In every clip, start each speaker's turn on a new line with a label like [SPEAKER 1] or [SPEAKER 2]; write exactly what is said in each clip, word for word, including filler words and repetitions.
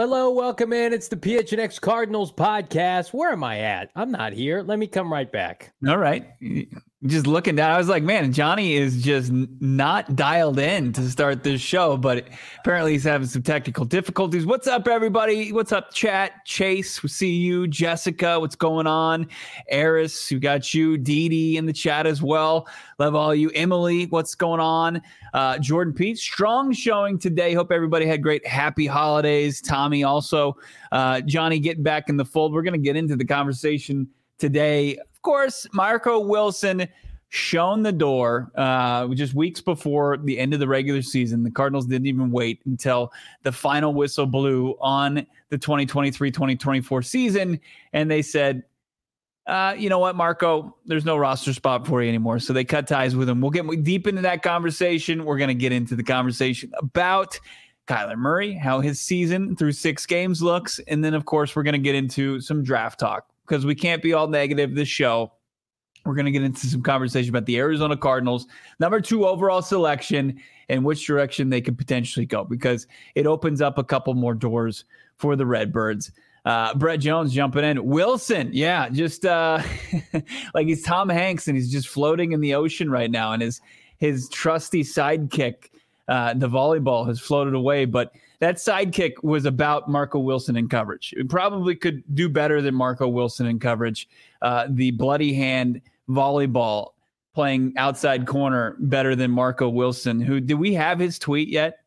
[SPEAKER 1] Hello, welcome in. It's the P H N X Cardinals podcast. Where am I at? I'm not here. Let me come right back.
[SPEAKER 2] All right. Just looking down, I was like, man, Johnny is just not dialed in to start this show, but apparently he's having some technical difficulties. What's up, everybody? What's up, chat? Chase, we see you. Jessica, what's going on? Eris, we got you. Dee Dee in the chat as well. Love all you. Emily, what's going on? Uh, Jordan Pete, strong showing today. Hope everybody had great, happy holidays. Tommy also. Uh, Johnny getting back in the fold. We're going to get into the conversation today. Of course, Marco Wilson shown the door uh, just weeks before the end of the regular season. The Cardinals didn't even wait until the final whistle blew on the twenty twenty-three twenty twenty-four season, and they said, Uh, you know what, Marco, there's no roster spot for you anymore. So they cut ties with him. We'll get deep into that conversation. We're going to get into the conversation about Kyler Murray, how his season through six games looks. And then, of course, we're going to get into some draft talk because we can't be all negative this show. We're going to get into some conversation about the Arizona Cardinals, number two overall selection, and which direction they could potentially go because it opens up a couple more doors for the Redbirds. Uh, Brett Jones jumping in. Wilson, yeah, just uh, like he's Tom Hanks and he's just floating in the ocean right now. And his his trusty sidekick, uh, the volleyball, has floated away. But that sidekick was about Marco Wilson in coverage. It probably could do better than Marco Wilson in coverage. Uh, the bloody hand volleyball playing outside corner better than Marco Wilson. Who did we have his tweet yet?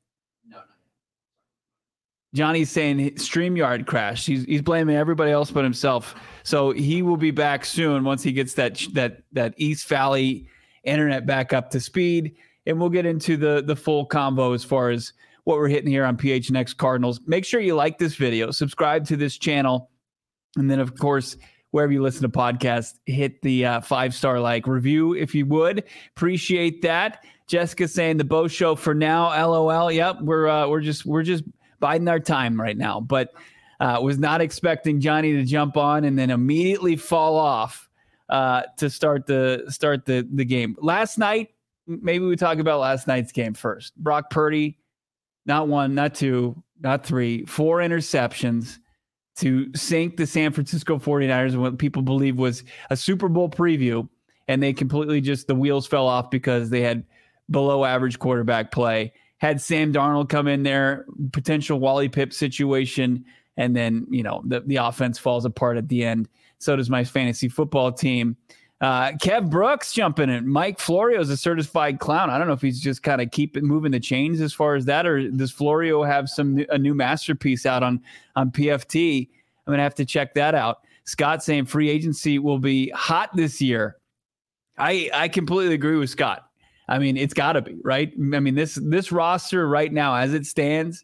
[SPEAKER 2] Johnny's saying StreamYard crashed. He's he's blaming everybody else but himself. So he will be back soon once he gets that that that East Valley internet back up to speed. And we'll get into the the full combo as far as what we're hitting here on P H N X Cardinals. Make sure you like this video, subscribe to this channel, and then of course wherever you listen to podcasts, hit the uh, five star like review if you would. Appreciate that. Jessica saying the Bo Show for now. LOL. Yep, we're uh, we're just we're just. biding our time right now, but uh, was not expecting Johnny to jump on and then immediately fall off uh, to start the start the the game. Last night, maybe we talk about last night's game first. Brock Purdy, not one, not two, not three, four interceptions to sink the San Francisco forty-niners in what people believe was a Super Bowl preview, and they completely just, the wheels fell off because they had below average quarterback play. Had Sam Darnold come in there, potential Wally Pipp situation, and then, you know, the, the offense falls apart at the end. So does my fantasy football team. Uh, Kev Brooks jumping in. Mike Florio is a certified clown. I don't know if he's just kind of keep it moving the chains as far as that, or does Florio have some a new masterpiece out on, on P F T? I'm going to have to check that out. Scott saying free agency will be hot this year. I, I completely agree with Scott. I mean, it's got to be, right? I mean, this this roster right now, as it stands,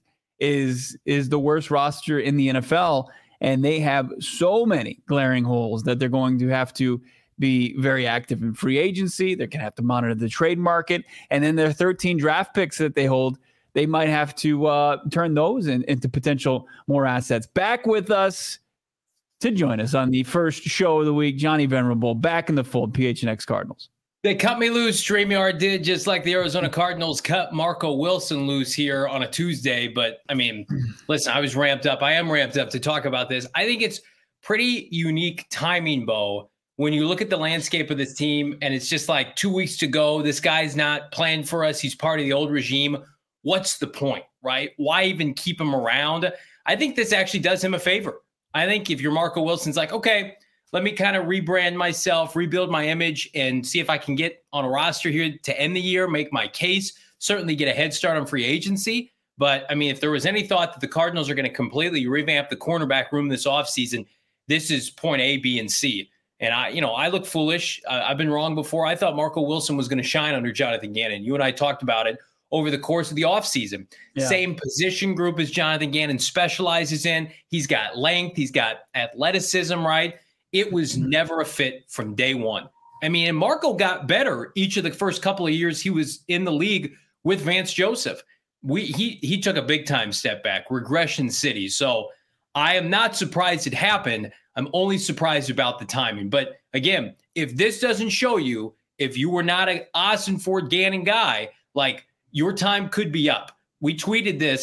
[SPEAKER 2] is is the worst roster in the N F L, and they have so many glaring holes that they're going to have to be very active in free agency. They're going to have to monitor the trade market, and then their thirteen draft picks that they hold, they might have to uh, turn those in, into potential more assets. Back with us to join us on the first show of the week, Johnny Venerable, back in the fold, P H N X Cardinals.
[SPEAKER 1] They cut me loose. StreamYard did, just like the Arizona Cardinals cut Marco Wilson loose here on a Tuesday. But, I mean, listen, I was ramped up. I am ramped up to talk about this. I think it's pretty unique timing, Bo, when you look at the landscape of this team and it's just like two weeks to go. This guy's not playing for us. He's part of the old regime. What's the point, right? Why even keep him around? I think this actually does him a favor. I think if you're Marco Wilson's like, okay, let me kind of rebrand myself, rebuild my image, and see if I can get on a roster here to end the year, make my case, certainly get a head start on free agency. But, I mean, if there was any thought that the Cardinals are going to completely revamp the cornerback room this offseason, this is point A, B, and C. And, I, you know, I look foolish. Uh, I've been wrong before. I thought Marco Wilson was going to shine under Jonathan Gannon. You and I talked about it over the course of the offseason. Yeah. Same position group as Jonathan Gannon specializes in. He's got length. He's got athleticism, right? It was never a fit from day one. I mean, and Marco got better each of the first couple of years he was in the league with Vance Joseph. We he he took a big time step back, regression city. So I am not surprised it happened. I'm only surprised about the timing. But again, if this doesn't show you, if you were not an Ossenford Gannon guy, like your time could be up. We tweeted this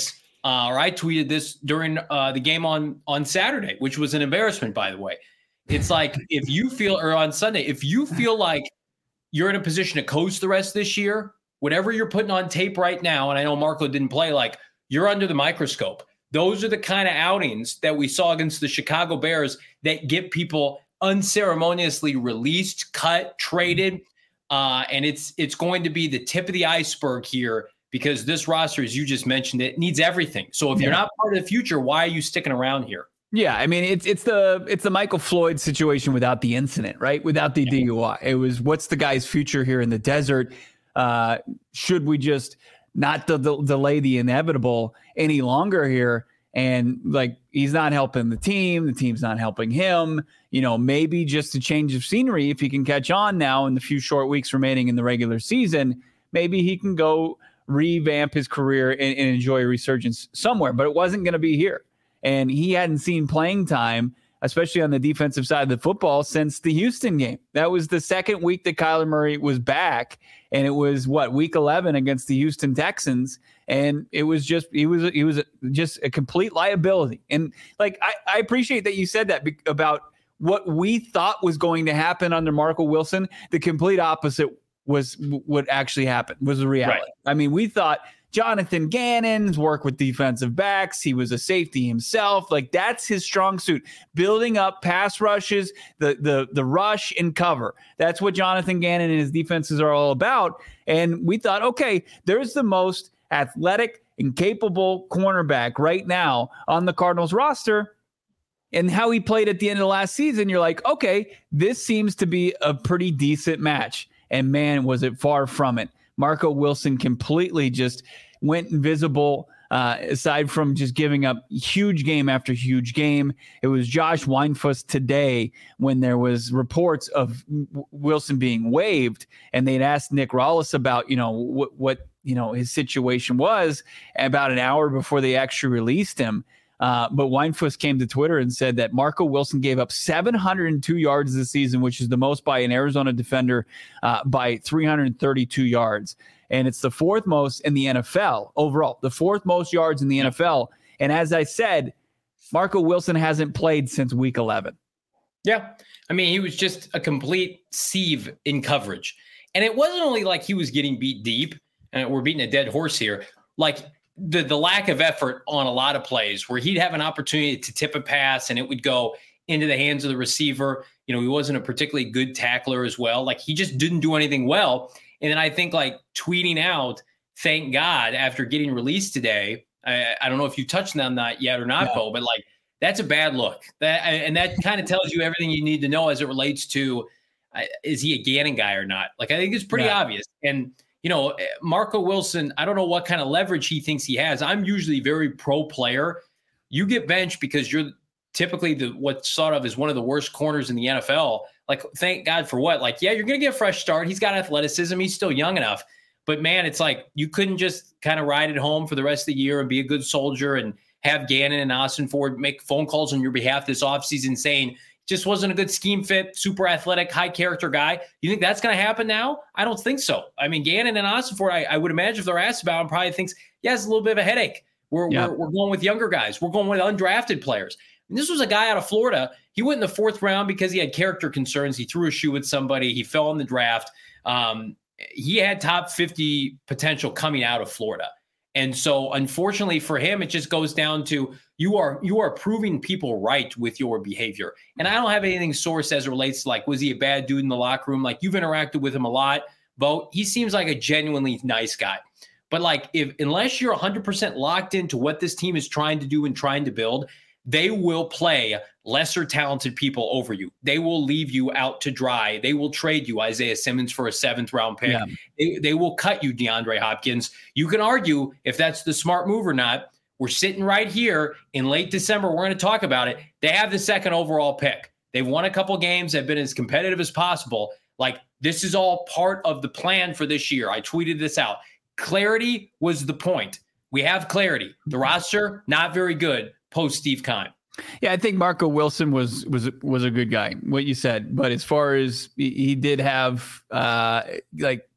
[SPEAKER 1] uh, or I tweeted this during uh, the game on, on Saturday, which was an embarrassment, by the way. It's like, if you feel, or on Sunday, if you feel like you're in a position to coach the rest of this year, whatever you're putting on tape right now, and I know Marco didn't play, like, you're under the microscope. Those are the kind of outings that we saw against the Chicago Bears that get people unceremoniously released, cut, traded. Uh, and it's it's going to be the tip of the iceberg here, because this roster, as you just mentioned, it needs everything. So if yeah. you're not part of the future, why are you sticking around here?
[SPEAKER 2] Yeah, I mean, it's it's the it's the Michael Floyd situation without the incident, right? Without the yeah. D U I. It was, what's the guy's future here in the desert? Uh, should we just not de- de- delay the inevitable any longer here? And like, he's not helping the team. The team's not helping him. You know, maybe just a change of scenery, if he can catch on now in the few short weeks remaining in the regular season, maybe he can go revamp his career and, and enjoy a resurgence somewhere. But it wasn't going to be here. And he hadn't seen playing time, especially on the defensive side of the football, since the Houston game. That was the second week that Kyler Murray was back. And it was what, week eleven against the Houston Texans. And it was just, he was, he was just a complete liability. And like, I, I appreciate that you said that be- about what we thought was going to happen under Marco Wilson. The complete opposite was what actually happened, was the reality. Right. I mean, we thought Jonathan Gannon's work with defensive backs, he was a safety himself. Like, that's his strong suit. Building up pass rushes, the the the rush and cover. That's what Jonathan Gannon and his defenses are all about. And we thought, okay, there's the most athletic and capable cornerback right now on the Cardinals roster. And how he played at the end of the last season, you're like, okay, this seems to be a pretty decent match. And man, was it far from it. Marco Wilson completely just went invisible, uh, aside from just giving up huge game after huge game. It was Josh Weinfuss today when there was reports of w- Wilson being waived, and they'd asked Nick Rawlis about, you know, what, what, you know, his situation was about an hour before they actually released him. Uh, but Weinfuss came to Twitter and said that Marco Wilson gave up seven hundred two yards this season, which is the most by an Arizona defender, uh, by three hundred thirty-two yards. And it's the fourth most in the N F L overall, the fourth most yards in the N F L. And as I said, Marco Wilson hasn't played since week eleven.
[SPEAKER 1] Yeah. I mean, he was just a complete sieve in coverage. And it wasn't only like he was getting beat deep, and we're beating a dead horse here. Like, the the lack of effort on a lot of plays where he'd have an opportunity to tip a pass and it would go into the hands of the receiver. You know, he wasn't a particularly good tackler as well. Like, he just didn't do anything well. And then I think, like, tweeting out, thank God, after getting released today, I, I don't know if you touched on that yet or not, no. Bo, but like, that's a bad look. That and that kind of tells you everything you need to know as it relates to, uh, is he a Gannon guy or not? Like, I think it's pretty yeah. obvious. And you know, Marco Wilson, I don't know what kind of leverage he thinks he has. I'm usually very pro player. You get benched because you're typically the what's thought of as one of the worst corners in the N F L. Like, thank God for what? Like, yeah, you're going to get a fresh start. He's got athleticism. He's still young enough. But, man, it's like you couldn't just kind of ride it home for the rest of the year and be a good soldier and have Gannon and Austin Ford make phone calls on your behalf this offseason saying, just wasn't a good scheme fit, super athletic, high character guy. You think that's going to happen now? I don't think so. I mean, Gannon and Austin Ford, I, I would imagine if they're asked about him, probably thinks, yeah, it's a little bit of a headache. We're, yeah. we're, we're going with younger guys. We're going with undrafted players. And this was a guy out of Florida. He went in the fourth round because he had character concerns. He threw a shoe with somebody. He fell in the draft. Um, he had top fifty potential coming out of Florida. And so, unfortunately for him, it just goes down to you are you are proving people right with your behavior. And I don't have anything sourced as it relates to, like, was he a bad dude in the locker room? Like, you've interacted with him a lot, Bo. He seems like a genuinely nice guy. But, like, if unless you're one hundred percent locked into what this team is trying to do and trying to build, they will play lesser talented people over you. They will leave you out to dry. They will trade you Isaiah Simmons for a seventh round pick. Yeah. They, they will cut you DeAndre Hopkins. You can argue if that's the smart move or not. We're sitting right here in late December. We're going to talk about it. They have the second overall pick. They've won a couple games. They've been as competitive as possible. Like, this is all part of the plan for this year. I tweeted this out. Clarity was the point. We have clarity. The roster, not very good post Steve Keim.
[SPEAKER 2] Yeah, I think Marco Wilson was was was a good guy, what you said. But as far as he, he did have uh, like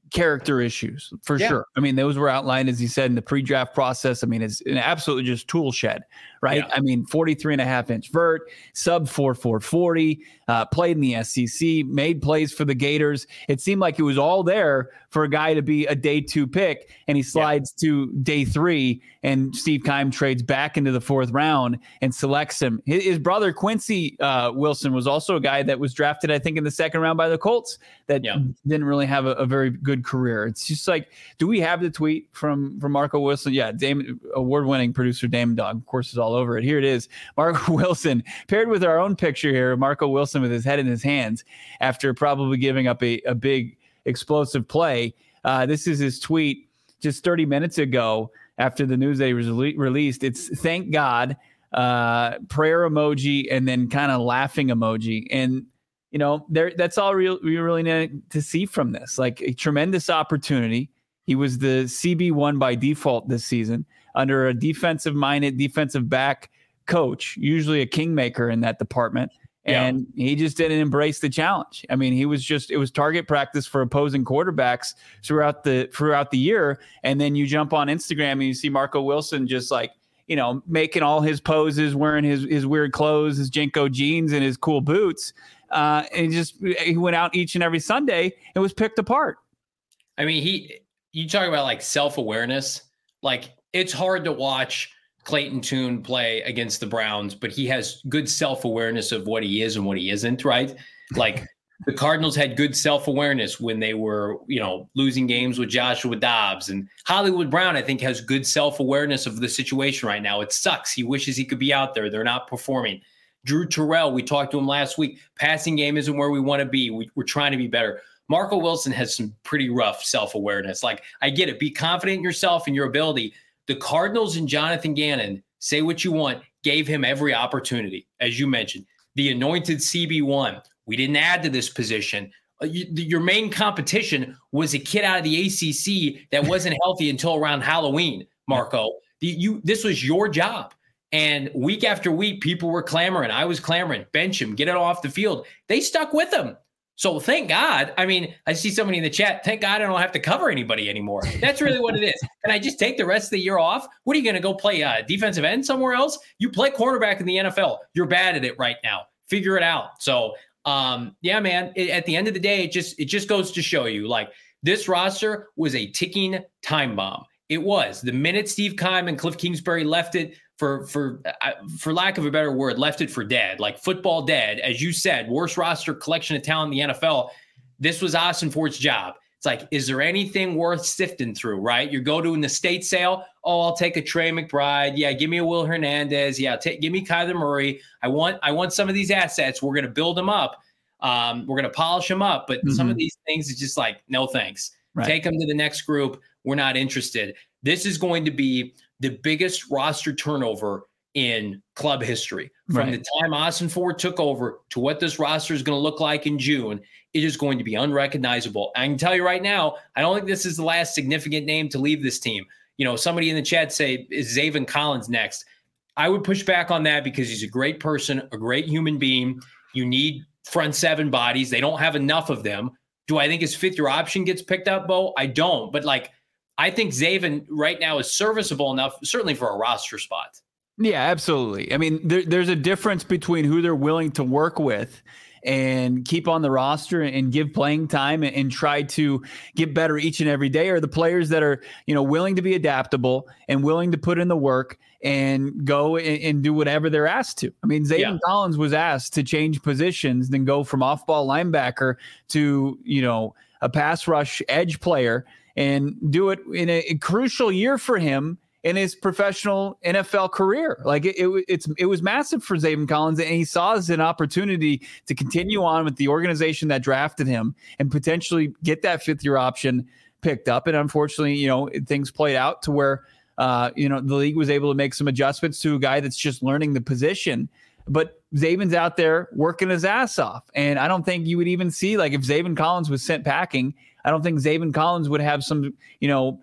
[SPEAKER 2] character issues for yeah. sure. I mean, those were outlined, as you said, in the pre-draft process. I mean, it's an absolutely just tool shed, right? Yeah. I mean, forty-three and a half inch vert, sub four four forty, uh, played in the S E C, made plays for the Gators. It seemed like it was all there for a guy to be a day two pick, and he slides yeah. to day three, and Steve Keim trades back into the fourth round and selects him. His, his brother, Quincy uh, Wilson, was also a guy that was drafted, I think, in the second round by the Colts that yeah. didn't really have a, a very good career. It's just like, do we have the tweet from, from Marco Wilson? Yeah, Damon, award-winning producer Damon Dog, of course, is all over it. Here it is. Marco Wilson, paired with our own picture here, Marco Wilson with his head in his hands after probably giving up a, a big explosive play. Uh, this is his tweet just thirty minutes ago after the news that he was re- released. It's thank God, uh, prayer emoji, and then kind of laughing emoji. And you know, there that's all real, we really need to see from this. Like a tremendous opportunity. He was the C B one by default this season under a defensive-minded defensive back coach, usually a kingmaker in that department. And yeah. he just didn't embrace the challenge. I mean, he was just, it was target practice for opposing quarterbacks throughout the throughout the year. And then you jump on Instagram and you see Marco Wilson just like, you know, making all his poses, wearing his his weird clothes, his Jenko jeans and his cool boots. Uh, and he just, he went out each and every Sunday and was picked apart.
[SPEAKER 1] I mean, he, you talk about like self-awareness, like it's hard to watch Clayton Tune play against the Browns, but he has good self-awareness of what he is and what he isn't, right? Like the Cardinals had good self-awareness when they were, you know, losing games with Joshua Dobbs, and Hollywood Brown, I think, has good self-awareness of the situation right now. It sucks. He wishes he could be out there. They're not performing. Drew Terrell, we talked to him last week. Passing game isn't where we want to be. We, we're trying to be better. Marco Wilson has some pretty rough self-awareness. Like, I get it. Be confident in yourself and your ability. The Cardinals and Jonathan Gannon, say what you want, gave him every opportunity, as you mentioned. The anointed C B one, we didn't add to this position. Uh, you, the, your main competition was a kid out of the A C C that wasn't healthy until around Halloween, Marco. The, you, this was your job. And week after week, people were clamoring. I was clamoring, bench him, get it off the field. They stuck with him. So thank God. I mean, I see somebody in the chat, thank God I don't have to cover anybody anymore. That's really what it is. Can I just take the rest of the year off? What are you going to go play uh, defensive end somewhere else? You play cornerback in the N F L. You're bad at it right now. Figure it out. So, um, yeah, man, it, at the end of the day, it just it just goes to show you, like, this roster was a ticking time bomb. It was. The minute Steve Keim and Cliff Kingsbury left it, for for uh, for lack of a better word, left it for dead, like football dead, as you said, worst roster collection of talent in the N F L. This was Austin Fort's job. It's like, is there anything worth sifting through, right? You go to an estate sale. Oh, I'll take a Trey McBride. Yeah, give me a Will Hernandez. Yeah, take, give me Kyler Murray. I want I want some of these assets. We're going to build them up. Um, we're going to polish them up. But mm-hmm. some of these things is just like, no thanks. Right. Take them to the next group. We're not interested. This is going to be the biggest roster turnover in club history. From right. the time Austin Fort took over to what this roster is going to look like in June, it is going to be unrecognizable. I can tell you right now, I don't think this is the last significant name to leave this team. You know, somebody in the chat say, is Zaven Collins next? I would push back on that because he's a great person, a great human being. You need front seven bodies. They don't have enough of them. Do I think his fifth year option gets picked up, Bo? I don't. But like, I think Zaven right now is serviceable enough, certainly for a roster spot.
[SPEAKER 2] Yeah, absolutely. I mean, there, there's a difference between who they're willing to work with and keep on the roster and give playing time and, and try to get better each and every day, or the players that are, you know, willing to be adaptable and willing to put in the work and go and, and do whatever they're asked to. I mean, Zaven yeah. Collins was asked to change positions, then go from off-ball linebacker to, you know, a pass rush edge player, and do it in a, a crucial year for him in his professional N F L career. Like it, it, it's, it was massive for Zaven Collins, and he saw as an opportunity to continue on with the organization that drafted him and potentially get that fifth year option picked up. And unfortunately, you know, things played out to where, uh, you know, the league was able to make some adjustments to a guy that's just learning the position. But Zaven's out there working his ass off. And I don't think you would even see, like, if Zaven Collins was sent packing, I don't think Zaven Collins would have some, you know,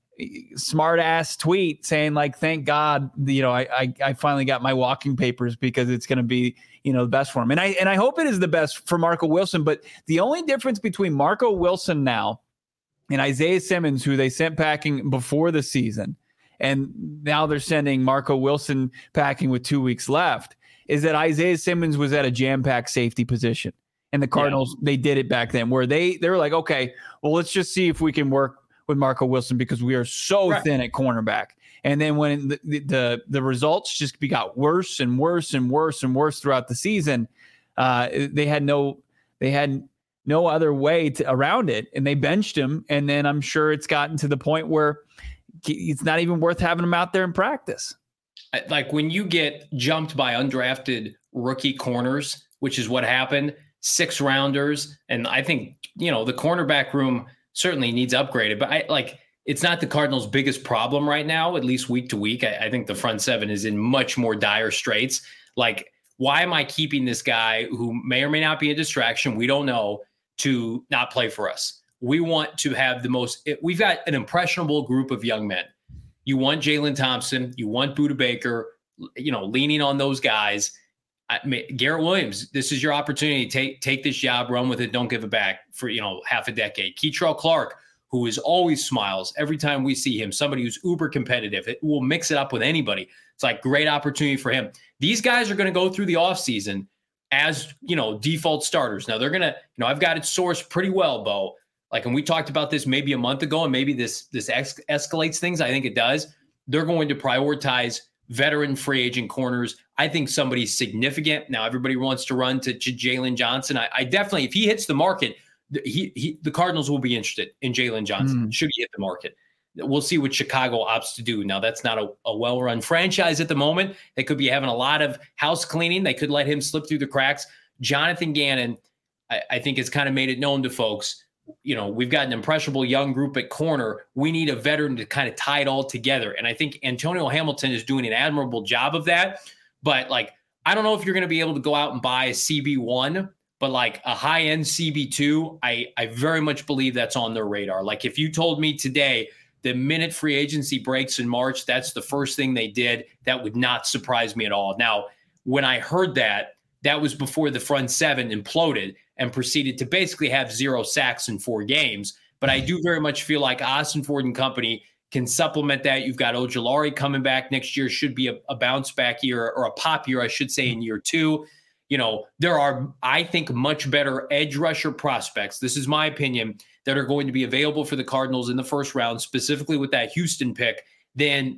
[SPEAKER 2] smart ass tweet saying like, thank God, you know, I, I, I finally got my walking papers because it's going to be, you know, the best for him. And I, and I hope it is the best for Marco Wilson. But the only difference between Marco Wilson now and Isaiah Simmons, who they sent packing before the season, and now they're sending Marco Wilson packing with two weeks left, is that Isaiah Simmons was at a jam-packed safety position. And the Cardinals, yeah. they did it back then where they, they were like, okay, well, let's just see if we can work with Marco Wilson because we are so right. thin at cornerback. And then when the, the, the results just got worse and worse and worse and worse throughout the season, uh, they had no, they had no other way to, around it. And they benched him. And then I'm sure it's gotten to the point where it's not even worth having him out there in practice.
[SPEAKER 1] Like when you get jumped by undrafted rookie corners, which is what happened, six rounders. And I think, you know, the cornerback room certainly needs upgraded, but I like, it's not the Cardinals' biggest problem right now, at least week to week. I, I think the front seven is in much more dire straits. Like, why am I keeping this guy who may or may not be a distraction? We don't know, to not play for us. We want to have the most, we've got an impressionable group of young men. You want Jalen Thompson, you want Budda Baker, you know, leaning on those guys. I mean, Garrett Williams, this is your opportunity to take, take this job, run with it, don't give it back for, you know, half a decade. Keitrell Clark, who is always smiles every time we see him, somebody who's uber competitive. It will mix it up with anybody. It's like great opportunity for him. These guys are going to go through the offseason as, you know, default starters. Now they're going to, you know, I've got it sourced pretty well, Bo. Like, and we talked about this maybe a month ago, and maybe this, this ex- escalates things. I think it does. They're going to prioritize veteran free agent corners. I think somebody significant. Now everybody wants to run to, to Jalen Johnson. I, I definitely, if he hits the market, he, he the Cardinals will be interested in Jalen Johnson. Mm. Should he hit the market? We'll see what Chicago opts to do. Now, that's not a, a well-run franchise at the moment. They could be having a lot of house cleaning. They could let him slip through the cracks. Jonathan Gannon, I, I think, has kind of made it known to folks, you know, we've got an impressionable young group at corner. We need a veteran to kind of tie it all together. And I think Antonio Hamilton is doing an admirable job of that. But, like, I don't know if you're going to be able to go out and buy a C B one, but like a high-end C B two, I, I very much believe that's on their radar. Like, if you told me today, the minute free agency breaks in March, that's the first thing they did, that would not surprise me at all. Now, when I heard that, that was before the front seven imploded and proceeded to basically have zero sacks in four games. But I do very much feel like Austin Ford and company can supplement that. You've got Ojulari coming back next year, should be a, a bounce back year, or a pop year, I should say, in year two. You know, there are, I think, much better edge rusher prospects. This is my opinion, that are going to be available for the Cardinals in the first round, specifically with that Houston pick, than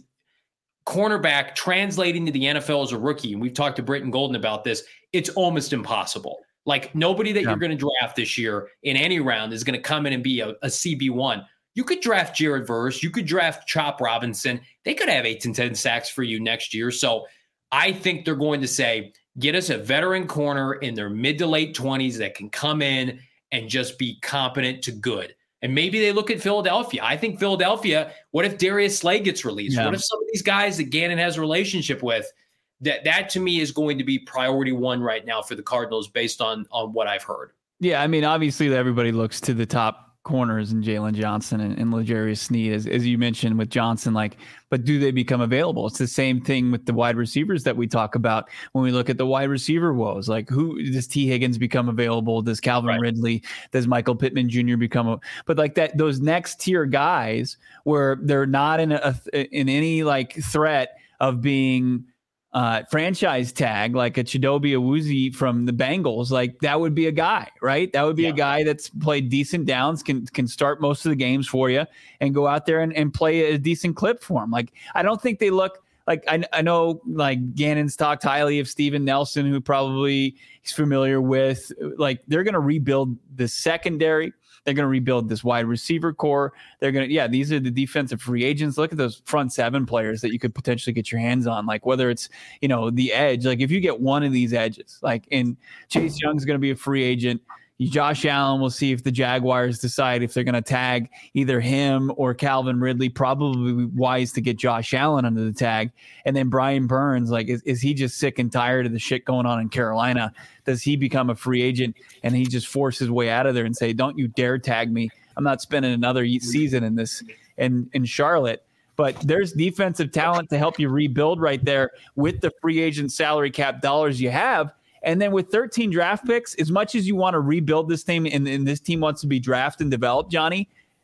[SPEAKER 1] cornerback translating to the N F L as a rookie. And we've talked to Britton Golden about this. It's almost impossible. Like, nobody that yeah. you're going to draft this year in any round is going to come in and be a, a C B one. You could draft Jared Verse. You could draft Chop Robinson. They could have eight to ten sacks for you next year. So I think they're going to say, get us a veteran corner in their mid to late twenties that can come in and just be competent to good. And maybe they look at Philadelphia. I think Philadelphia, what if Darius Slay gets released? Yeah. What if some of these guys that Gannon has a relationship with, that that to me is going to be priority one right now for the Cardinals based on, on what I've heard.
[SPEAKER 2] Yeah, I mean, obviously everybody looks to the top corners in Jalen Johnson and, and L'Jarius Sneed, as, as you mentioned with Johnson, like, but do they become available? It's the same thing with the wide receivers that we talk about when we look at the wide receiver woes. Like, who does T. Higgins become available? Does Calvin right. Ridley, does Michael Pittman Junior become a, but like that, those next tier guys where they're not in a, in any like threat of being Uh, franchise tag, like a Chidobe Awuzie from the Bengals, like that would be a guy, right? That would be yeah. a guy that's played decent downs, can can start most of the games for you, and go out there and, and play a decent clip for him. Like, I don't think they look like, I, I know like Gannon's talked highly of Steven Nelson, who probably he's familiar with. Like, they're going to rebuild the secondary. They're going to rebuild this wide receiver core. They're going to, yeah, these are the defensive free agents. Look at those front seven players that you could potentially get your hands on. Like, whether it's, you know, the edge, like if you get one of these edges, like, and Chase Young's going to be a free agent. Josh Allen, we'll see if the Jaguars decide if they're going to tag either him or Calvin Ridley. Probably wise to get Josh Allen under the tag. And then Brian Burns, like, is, is he just sick and tired of the shit going on in Carolina? Does he become a free agent and he just force his way out of there and say, don't you dare tag me. I'm not spending another season in this in, in Charlotte. But there's defensive talent to help you rebuild right there with the free agent salary cap dollars you have. And then with thirteen draft picks, as much as you want to rebuild this team and, and this team wants to be drafted and developed, Johnny,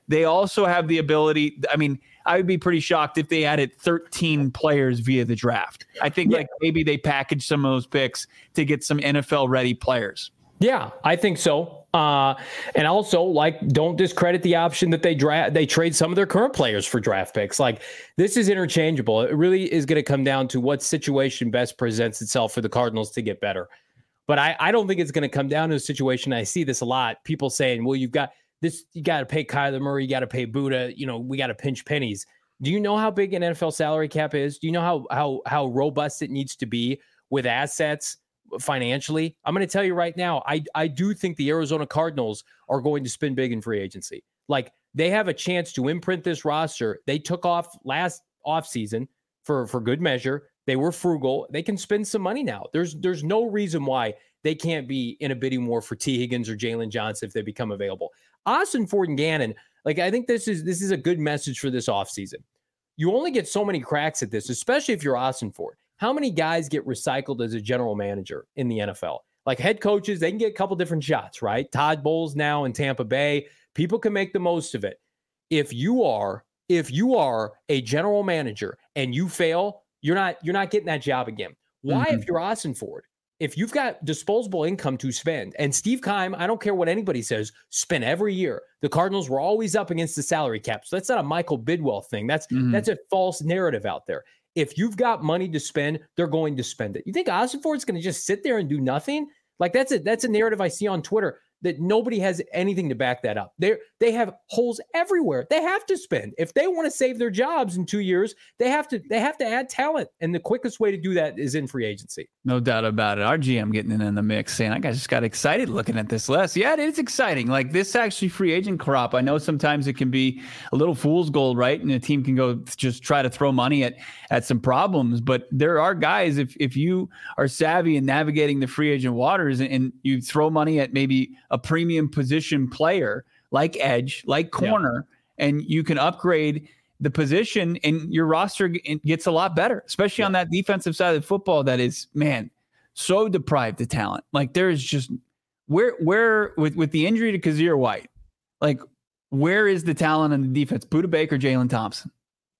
[SPEAKER 2] they also have the ability. I mean, I would be pretty shocked if they added thirteen players via the draft. I think yeah. like maybe they package some of those picks to get some N F L ready players.
[SPEAKER 3] Yeah, I think so. Uh, and also, like, don't discredit the option that they draft, they trade some of their current players for draft picks. Like, this is interchangeable. It really is going to come down to what situation best presents itself for the Cardinals to get better. But I, I don't think it's going to come down to a situation. I see this a lot. People saying, well, you've got this, you got to pay Kyler Murray, you got to pay Buddha, you know, we got to pinch pennies. Do you know how big an N F L salary cap is? Do you know how how how robust it needs to be with assets financially? I'm going to tell you right now, I I do think the Arizona Cardinals are going to spend big in free agency. Like, they have a chance to imprint this roster. They took off last offseason for, for good measure. They were frugal. They can spend some money now. There's there's no reason why they can't be in a bidding war for T. Higgins or Jalen Johnson if they become available. Austin Ford and Gannon, like, I think this is this is a good message for this offseason. You only get so many cracks at this, especially if you're Austin Ford. How many guys get recycled as a general manager in the N F L? Like, head coaches, they can get a couple different shots, right? Todd Bowles now in Tampa Bay. People can make the most of it. If you are, if you are a general manager and you fail, you're not, you're not getting that job again. Why, mm-hmm. if you're Austin Ford, if you've got disposable income to spend, and Steve Keim, I don't care what anybody says, spend every year. The Cardinals were always up against the salary cap. So that's not a Michael Bidwell thing. That's mm-hmm. that's a false narrative out there. If you've got money to spend, they're going to spend it. You think Austin Ford's going to just sit there and do nothing? Like, that's a that's a narrative I see on Twitter that nobody has anything to back that up. They they have holes everywhere. They have to spend. If they want to save their jobs in two years, they have to they have to add talent. And the quickest way to do that is in free agency.
[SPEAKER 2] No doubt about it. Our G M getting in the mix, saying, I just got excited looking at this list. Yeah, it is exciting. Like, this actually free agent crop. I know sometimes it can be a little fool's gold, right? And a team can go just try to throw money at at some problems. But there are guys, if if you are savvy in navigating the free agent waters and, and you throw money at maybe a premium position player like edge, like corner, yeah. and you can upgrade the position and your roster gets a lot better, especially yeah. on that defensive side of the football that is, man, so deprived of talent. Like, there is just where, where with, with the injury to Kazir White, like, where is the talent on the defense? Budda Baker, Jalen Thompson.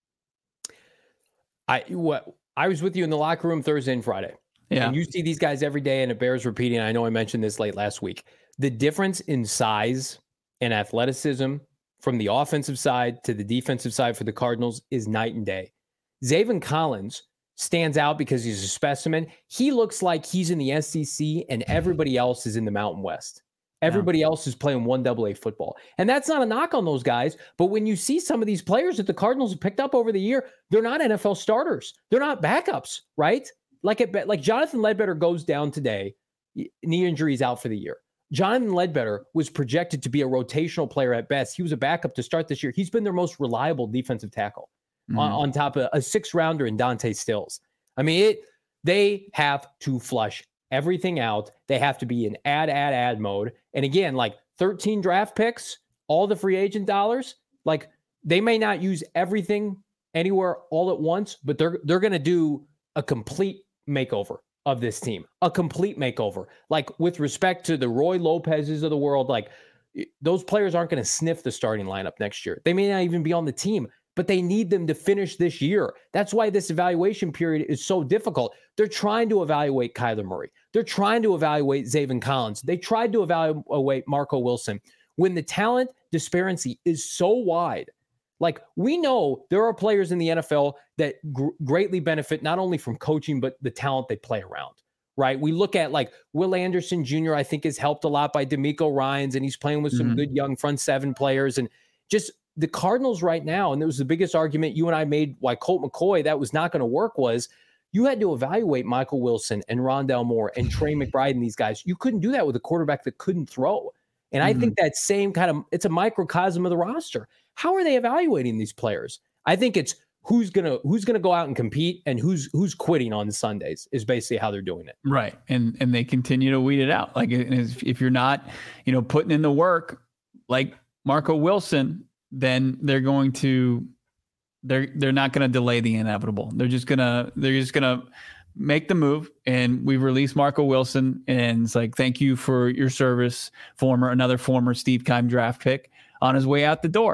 [SPEAKER 3] I, what I was with you in the locker room Thursday and Friday. Yeah. And you see these guys every day, and it bears repeating. I know I mentioned this late last week. The difference in size and athleticism from the offensive side to the defensive side for the Cardinals is night and day. Zaven Collins stands out because he's a specimen. He looks like he's in the S E C and everybody else is in the Mountain West. Everybody yeah. else is playing one double A football. And that's not a knock on those guys. But when you see some of these players that the Cardinals have picked up over the year, they're not N F L starters. They're not backups, right? Like it, like Jonathan Ledbetter goes down today, knee injury is out for the year. Jonathan Ledbetter was projected to be a rotational player at best. He was a backup to start this year. He's been their most reliable defensive tackle mm-hmm. on, on top of a six rounder in Dante Stills. I mean, it, they have to flush everything out. They have to be in add, add, add mode. And again, like thirteen draft picks, all the free agent dollars, like they may not use everything anywhere all at once, but they're, they're going to do a complete makeover of this team, a complete makeover. Like, with respect to the Roy Lopez's of the world, like, those players aren't going to sniff the starting lineup next year. They may not even be on the team, but they need them to finish this year. That's why this evaluation period is so difficult. They're trying to evaluate Kyler Murray. They're trying to evaluate Zaven Collins. They tried to evaluate Marco Wilson. When the talent disparity is so wide, like, we know there are players in the N F L that gr- greatly benefit not only from coaching, but the talent they play around, right? We look at, like, Will Anderson Junior, I think, is helped a lot by D'Amico Ryans, and he's playing with some mm-hmm. good young front seven players. And just the Cardinals right now, and it was the biggest argument you and I made why Colt McCoy, that was not going to work, was you had to evaluate Michael Wilson and Rondale Moore and Trey McBride and these guys. You couldn't do that with a quarterback that couldn't throw. And mm-hmm. I think that same kind of, it's a microcosm of the roster. How are they evaluating these players? I think it's who's gonna who's gonna go out and compete and who's who's quitting on Sundays is basically how they're doing it.
[SPEAKER 2] Right, and and they continue to weed it out. Like, if you're not, you know, putting in the work, like Marco Wilson, then they're going to they're they're not going to delay the inevitable. They're just gonna they're just gonna make the move, and we've released Marco Wilson, and it's like, thank you for your service, former another former Steve Keim draft pick on his way out the door.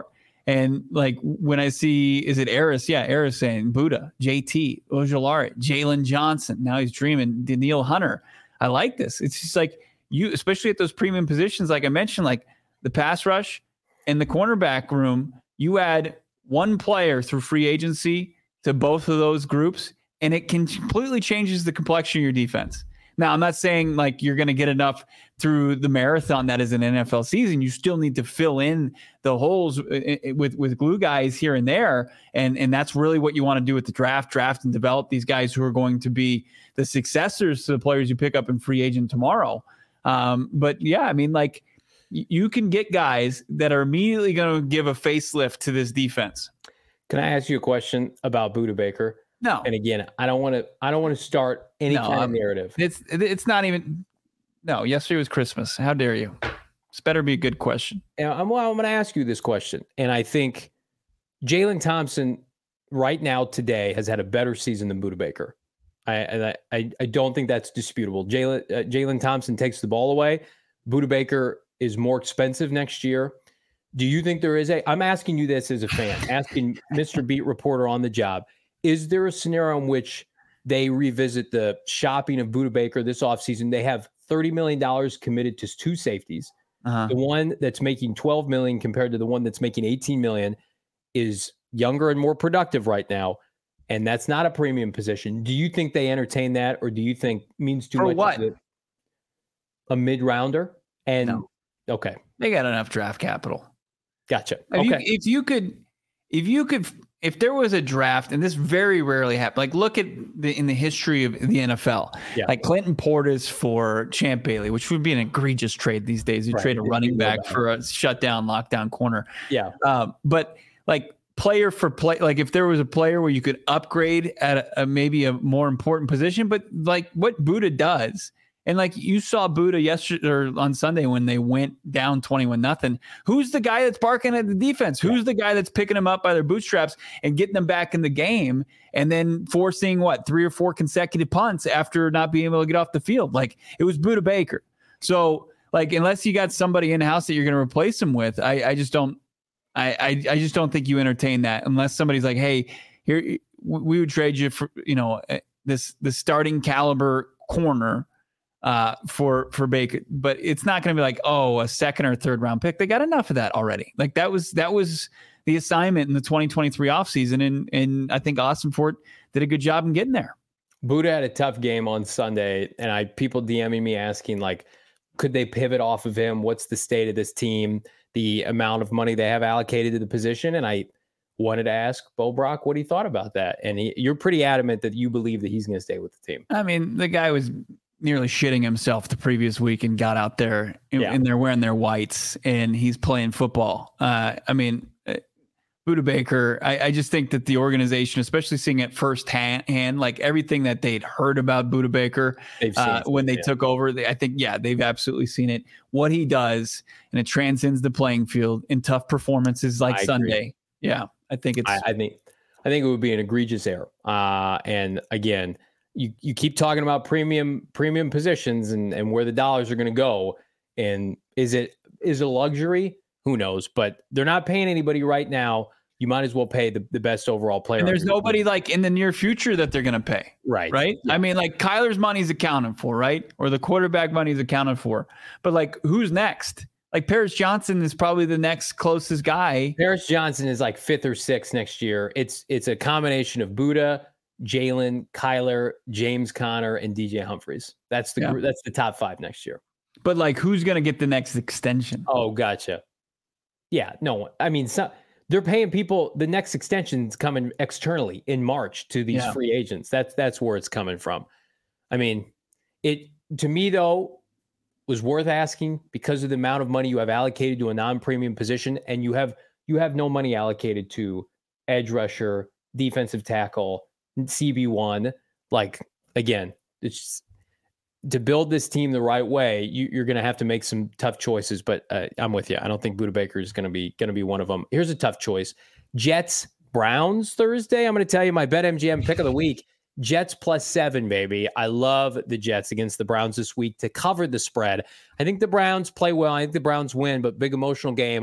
[SPEAKER 2] And like when I see, is it Eris? Yeah, Eris saying Buddha, J T, Ojulari, Jalen Johnson. Now he's dreaming. Daniil Hunter. I like this. It's just like you, especially at those premium positions, like I mentioned, like the pass rush and the cornerback room. You add one player through free agency to both of those groups, and it can completely changes the complexion of your defense. Now, I'm not saying like you're going to get enough through the marathon that is an N F L season. You still need to fill in the holes with, with glue guys here and there. And, and that's really what you want to do with the draft, draft and develop these guys who are going to be the successors to the players you pick up in free agent tomorrow. Um, but yeah, I mean, like you can get guys that are immediately going to give a facelift to this defense.
[SPEAKER 3] Can I ask you a question about Budda Baker?
[SPEAKER 2] No.
[SPEAKER 3] And again, I don't want to. I don't want to start any no, kind of narrative.
[SPEAKER 2] It's it's not even. No, yesterday was Christmas. How dare you? This better be a good question.
[SPEAKER 3] And I'm, well, I'm going to ask you this question, and I think Jalen Thompson right now today has had a better season than Budda Baker. I and I, I I don't think that's disputable. Jalen uh, Jalen Thompson takes the ball away. Budda Baker is more expensive next year. Do you think there is a? I'm asking you this as a fan, asking Mister Beat Reporter on the job. Is there a scenario in which they revisit the shopping of Budda Baker this offseason? They have thirty million dollars committed to two safeties. Uh-huh. The one that's making twelve million dollars compared to the one that's making eighteen million dollars is younger and more productive right now. And that's not a premium position. Do you think they entertain that, or do you think means too
[SPEAKER 2] For
[SPEAKER 3] much?
[SPEAKER 2] What?
[SPEAKER 3] A, a mid-rounder? And
[SPEAKER 2] no.
[SPEAKER 3] Okay.
[SPEAKER 2] They got enough draft capital.
[SPEAKER 3] Gotcha.
[SPEAKER 2] If
[SPEAKER 3] okay.
[SPEAKER 2] You, if you could, if you could, if there was a draft, and this very rarely happens, like look at the in the history of the N F L, yeah. like Clinton Portis for Champ Bailey, which would be an egregious trade these days. You right. trade a running back for a shutdown, lockdown corner.
[SPEAKER 3] Yeah.
[SPEAKER 2] Um, but like player for play, like if there was a player where you could upgrade at a, a maybe a more important position, but like what Budda does. And like you saw Budda yesterday or on Sunday when they went down twenty-one nothing. Who's the guy that's barking at the defense? Who's yeah. the guy that's picking them up by their bootstraps and getting them back in the game and then forcing what three or four consecutive punts after not being able to get off the field? Like it was Budda Baker. So like unless you got somebody in house that you're going to replace him with, I, I just don't. I, I I just don't think you entertain that unless somebody's like, hey, here we would trade you for you know this the starting caliber corner. Uh, for for Baker, but it's not going to be like, oh, a second or third round pick. They got enough of that already. Like that was that was the assignment in the twenty twenty-three offseason, and and I think Ossenfort did a good job in getting there.
[SPEAKER 3] Budda had a tough game on Sunday, and I people DMing me asking like, could they pivot off of him? What's the state of this team? The amount of money they have allocated to the position, and I wanted to ask Bo Brock what he thought about that. And he, you're pretty adamant that you believe that he's going to stay with the team.
[SPEAKER 2] I mean, the guy was nearly shitting himself the previous week and got out there and, yeah. and they're wearing their whites and he's playing football. Uh, I mean, uh, Budda Baker, I, I just think that the organization, especially seeing it firsthand, hand, like everything that they'd heard about Budda Baker uh, when they yeah. took over, they, I think, yeah, they've absolutely seen it. What he does, and it transcends the playing field in tough performances like I Sunday. Agree. Yeah, I think it's.
[SPEAKER 3] I, I think, I think it would be an egregious error. Uh, and again, You you keep talking about premium premium positions and, and where the dollars are going to go. And is it is it a luxury? Who knows? But they're not paying anybody right now. You might as well pay the, the best overall player.
[SPEAKER 2] And there's nobody team. like in the near future that they're going to pay.
[SPEAKER 3] Right.
[SPEAKER 2] Right. Yeah. I mean, like Kyler's money's accounted for, right? Or the quarterback money's accounted for. But like who's next? Like Paris Johnson is probably the next closest guy.
[SPEAKER 3] Paris Johnson is like fifth or sixth next year. It's it's a combination of Budda, Jalen, Kyler, James Conner, and D J Humphries. That's the yeah. that's the top five next year.
[SPEAKER 2] But like, who's going to get the next extension?
[SPEAKER 3] Oh, gotcha. Yeah, no one. I mean, so, they're paying people. The next extension's coming externally in March to these yeah. free agents. That's that's where it's coming from. I mean, it to me though was worth asking because of the amount of money you have allocated to a non-premium position, and you have you have no money allocated to edge rusher, defensive tackle, C B one. Like again, it's just, to build this team the right way, you, you're going to have to make some tough choices. But uh, I'm with you. I don't think Budda Baker is going to be going to be one of them. Here's a tough choice: Jets Browns Thursday. I'm going to tell you my BetMGM pick of the week: Jets plus seven, baby. I love the Jets against the Browns this week to cover the spread. I think the Browns play well. I think the Browns win, but big emotional game.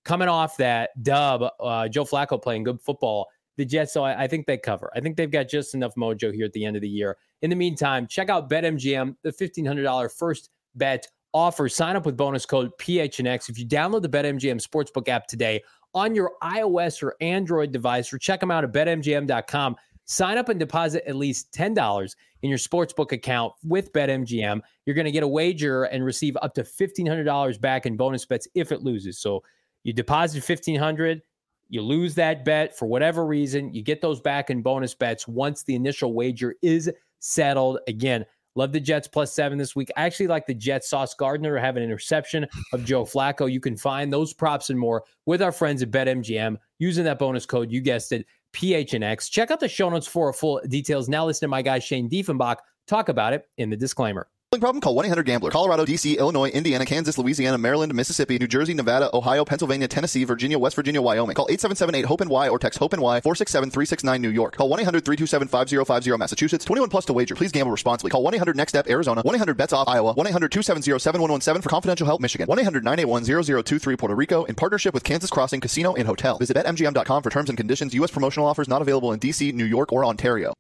[SPEAKER 3] coming off that dub, uh, Joe Flacco playing good football, the Jets, so I, I think they cover. I think they've got just enough mojo here at the end of the year. In the meantime, check out BetMGM, the fifteen hundred dollars first bet offer. Sign up with bonus code P H N X. If you download the BetMGM Sportsbook app today on your iOS or Android device, or check them out at bet M G M dot com. Sign up and deposit at least ten dollars in your sportsbook account with BetMGM. You're going to get a wager and receive up to fifteen hundred dollars back in bonus bets if it loses. So you deposit fifteen hundred dollars, you lose that bet for whatever reason, you get those back in bonus bets once the initial wager is settled. Again, love the Jets plus seven this week. I actually like the Jets. Sauce Gardner have an interception of Joe Flacco. You can find those props and more with our friends at BetMGM using that bonus code. You guessed it, P H N X. Check out the show notes for full details. Now listen to my guy Shane Diefenbach talk about it in the disclaimer.
[SPEAKER 4] Problem? Call one eight hundred gambler. Colorado, D C, Illinois, Indiana, Kansas, Louisiana, Maryland, Mississippi, New Jersey, Nevada, Ohio, Pennsylvania, Tennessee, Virginia, West Virginia, Wyoming. Call eight seven seven eight hope N Y or text hope N Y four six seven three six nine New York. Call one eight hundred three two seven five zero five zero Massachusetts. twenty-one plus to wager. Please gamble responsibly. Call one eight hundred next step Arizona. one eight hundred bets off Iowa. one eight hundred two seven zero seven one one seven for confidential help Michigan. one eight hundred nine eight one zero zero two three Puerto Rico in partnership with Kansas Crossing Casino and Hotel. Visit bet M G M dot com for terms and conditions. U S promotional offers not available in D C, New York, or Ontario.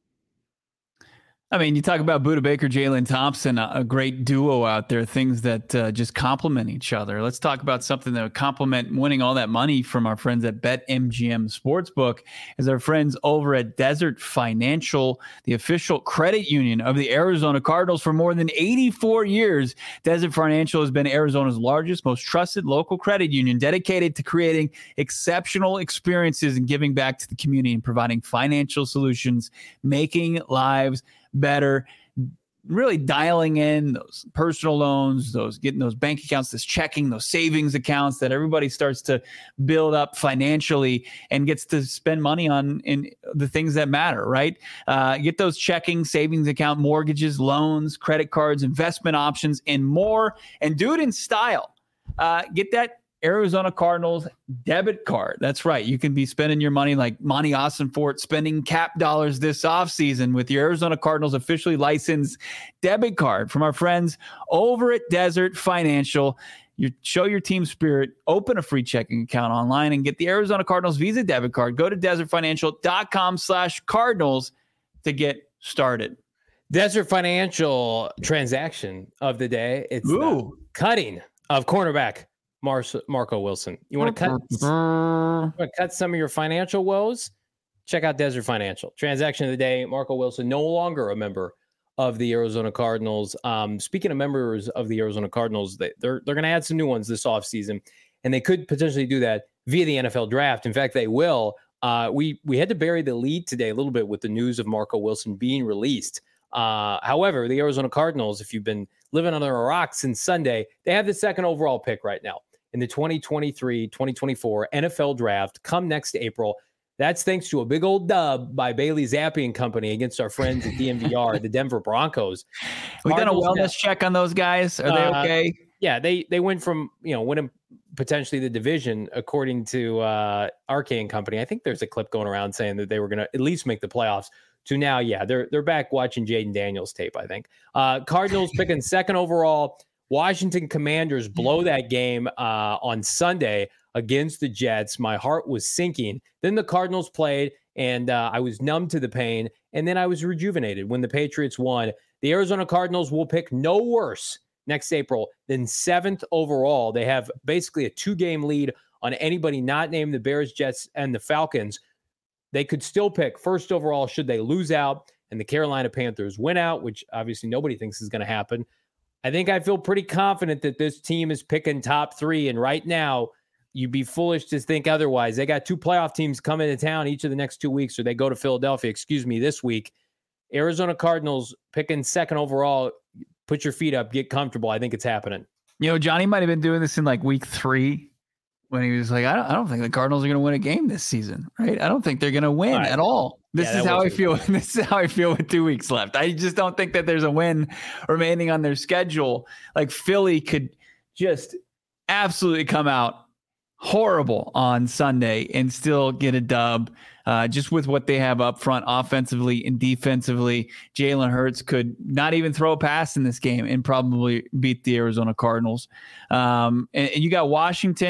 [SPEAKER 2] I mean, you talk about Budda Baker, Jalen Thompson, a, a great duo out there, things that uh, just complement each other. Let's talk about something that would complement winning all that money from our friends at BetMGM Sportsbook, is our friends over at Desert Financial, the official credit union of the Arizona Cardinals for more than eighty-four years. Desert Financial has been Arizona's largest, most trusted local credit union, dedicated to creating exceptional experiences and giving back to the community and providing financial solutions, making lives better, really dialing in those personal loans, those getting those bank accounts, this checking, those savings accounts that everybody starts to build up financially and gets to spend money on in the things that matter, right? Uh, get those checking, savings account, mortgages, loans, credit cards, investment options, and more. And do it in style. Uh, get that Arizona Cardinals debit card. That's right. You can be spending your money like Monty Ossenfort spending cap dollars this offseason with your Arizona Cardinals officially licensed debit card from our friends over at Desert Financial. You show your team spirit, open a free checking account online and get the Arizona Cardinals Visa debit card. Go to desert financial dot com slash Cardinals to get started.
[SPEAKER 3] Desert Financial transaction of the day. It's the cutting of cornerback Mar- Marco Wilson. You want to cut, you want to cut some of your financial woes? Check out Desert Financial. Transaction of the day, Marco Wilson, no longer a member of the Arizona Cardinals. Um, speaking of members of the Arizona Cardinals, they, they're they're going to add some new ones this offseason, and they could potentially do that via the N F L draft. In fact, they will. Uh, we we had to bury the lead today a little bit with the news of Marco Wilson being released. Uh, however, the Arizona Cardinals, if you've been living under a rock since Sunday, they have the second overall pick right now in the twenty twenty-three twenty twenty-four N F L draft come next April. That's thanks to a big old dub by Bailey Zappi and company against our friends at D M V R, the Denver Broncos.
[SPEAKER 2] We done a wellness have, check on those guys. Are they okay?
[SPEAKER 3] Uh, yeah, they they went from, you know, winning potentially the division, according to uh, Arcane Company. I think there's a clip going around saying that they were going to at least make the playoffs. To now, yeah, they're they're back watching Jaden Daniels tape, I think. Uh, Cardinals picking second overall. Washington Commanders blow that game uh, on Sunday against the Jets. My heart was sinking. Then the Cardinals played, and uh, I was numb to the pain, and then I was rejuvenated when the Patriots won. The Arizona Cardinals will pick no worse next April than seventh overall. They have basically a two-game lead on anybody not named the Bears, Jets, and the Falcons. They could still pick first overall should they lose out and the Carolina Panthers win out, which obviously nobody thinks is going to happen. I think I feel pretty confident that this team is picking top three. And right now, you'd be foolish to think otherwise. They got two playoff teams coming to town each of the next two weeks, or they go to Philadelphia, excuse me, this week. Arizona Cardinals picking second overall. Put your feet up, get comfortable. I think it's happening.
[SPEAKER 2] You know, Johnny might have been doing this in like week three when he was like, I don't, I don't think the Cardinals are going to win a game this season, right? I don't think they're going to win all right. at all. This yeah, is how I feel. This is how I feel with two weeks left. I just don't think that there's a win remaining on their schedule. Like Philly could just absolutely come out horrible on Sunday and still get a dub. Uh, just with what they have up front offensively and defensively, Jalen Hurts could not even throw a pass in this game and probably beat the Arizona Cardinals. Um, and, and you got Washington.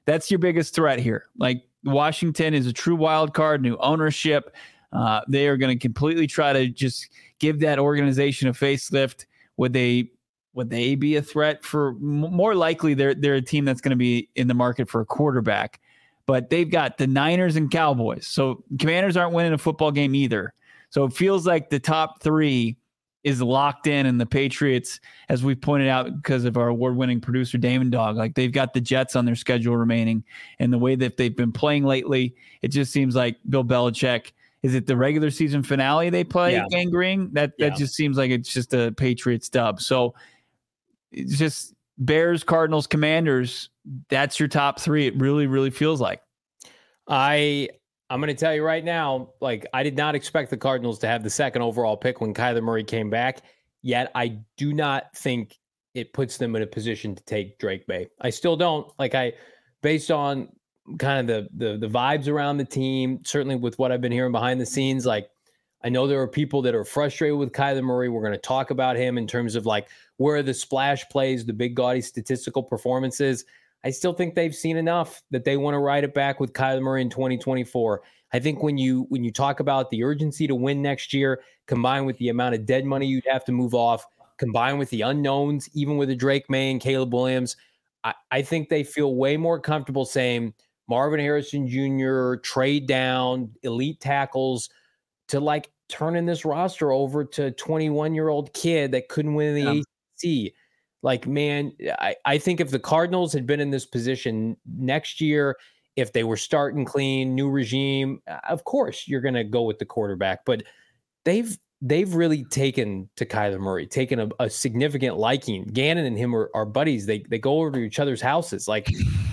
[SPEAKER 2] that's your biggest threat here. Like Washington is a true wild card, new ownership. Uh, they are going to completely try to just give that organization a facelift. Would they would they be a threat for more likely they're they're a team that's going to be in the market for a quarterback, but they've got the Niners and Cowboys. So Commanders aren't winning a football game either. So it feels like the top three is locked in, and the Patriots, as we pointed out because of our award-winning producer Damon Dog, like they've got the Jets on their schedule remaining, and the way that they've been playing lately, it just seems like Bill Belichick. Is it the regular season finale they play
[SPEAKER 3] yeah.
[SPEAKER 2] Gang Green? That that yeah. just seems like it's just a Patriots dub. So it's just Bears, Cardinals, Commanders. That's your top three. It really, really feels like.
[SPEAKER 3] I I'm going to tell you right now, like I did not expect the Cardinals to have the second overall pick when Kyler Murray came back. Yet I do not think it puts them in a position to take Drake May. I still don't. Like I, based on kind of the, the the vibes around the team, certainly with what I've been hearing behind the scenes, like I know there are people that are frustrated with Kyler Murray. We're going to talk about him in terms of like where are the splash plays, the big gaudy statistical performances. I still think they've seen enough that they want to ride it back with Kyler Murray in twenty twenty-four. I think when you when you talk about the urgency to win next year, combined with the amount of dead money you'd have to move off, combined with the unknowns, even with a Drake May and Caleb Williams, I, I think they feel way more comfortable saying Marvin Harrison Junior, trade down, elite tackles, to like turning this roster over to a twenty-one-year-old kid that couldn't win the yeah. A C C. Like, man, I, I think if the Cardinals had been in this position next year, if they were starting clean, new regime, of course you're going to go with the quarterback. But they've they've really taken to Kyler Murray, taken a, a significant liking. Gannon and him are, are buddies. They they go over to each other's houses. Like,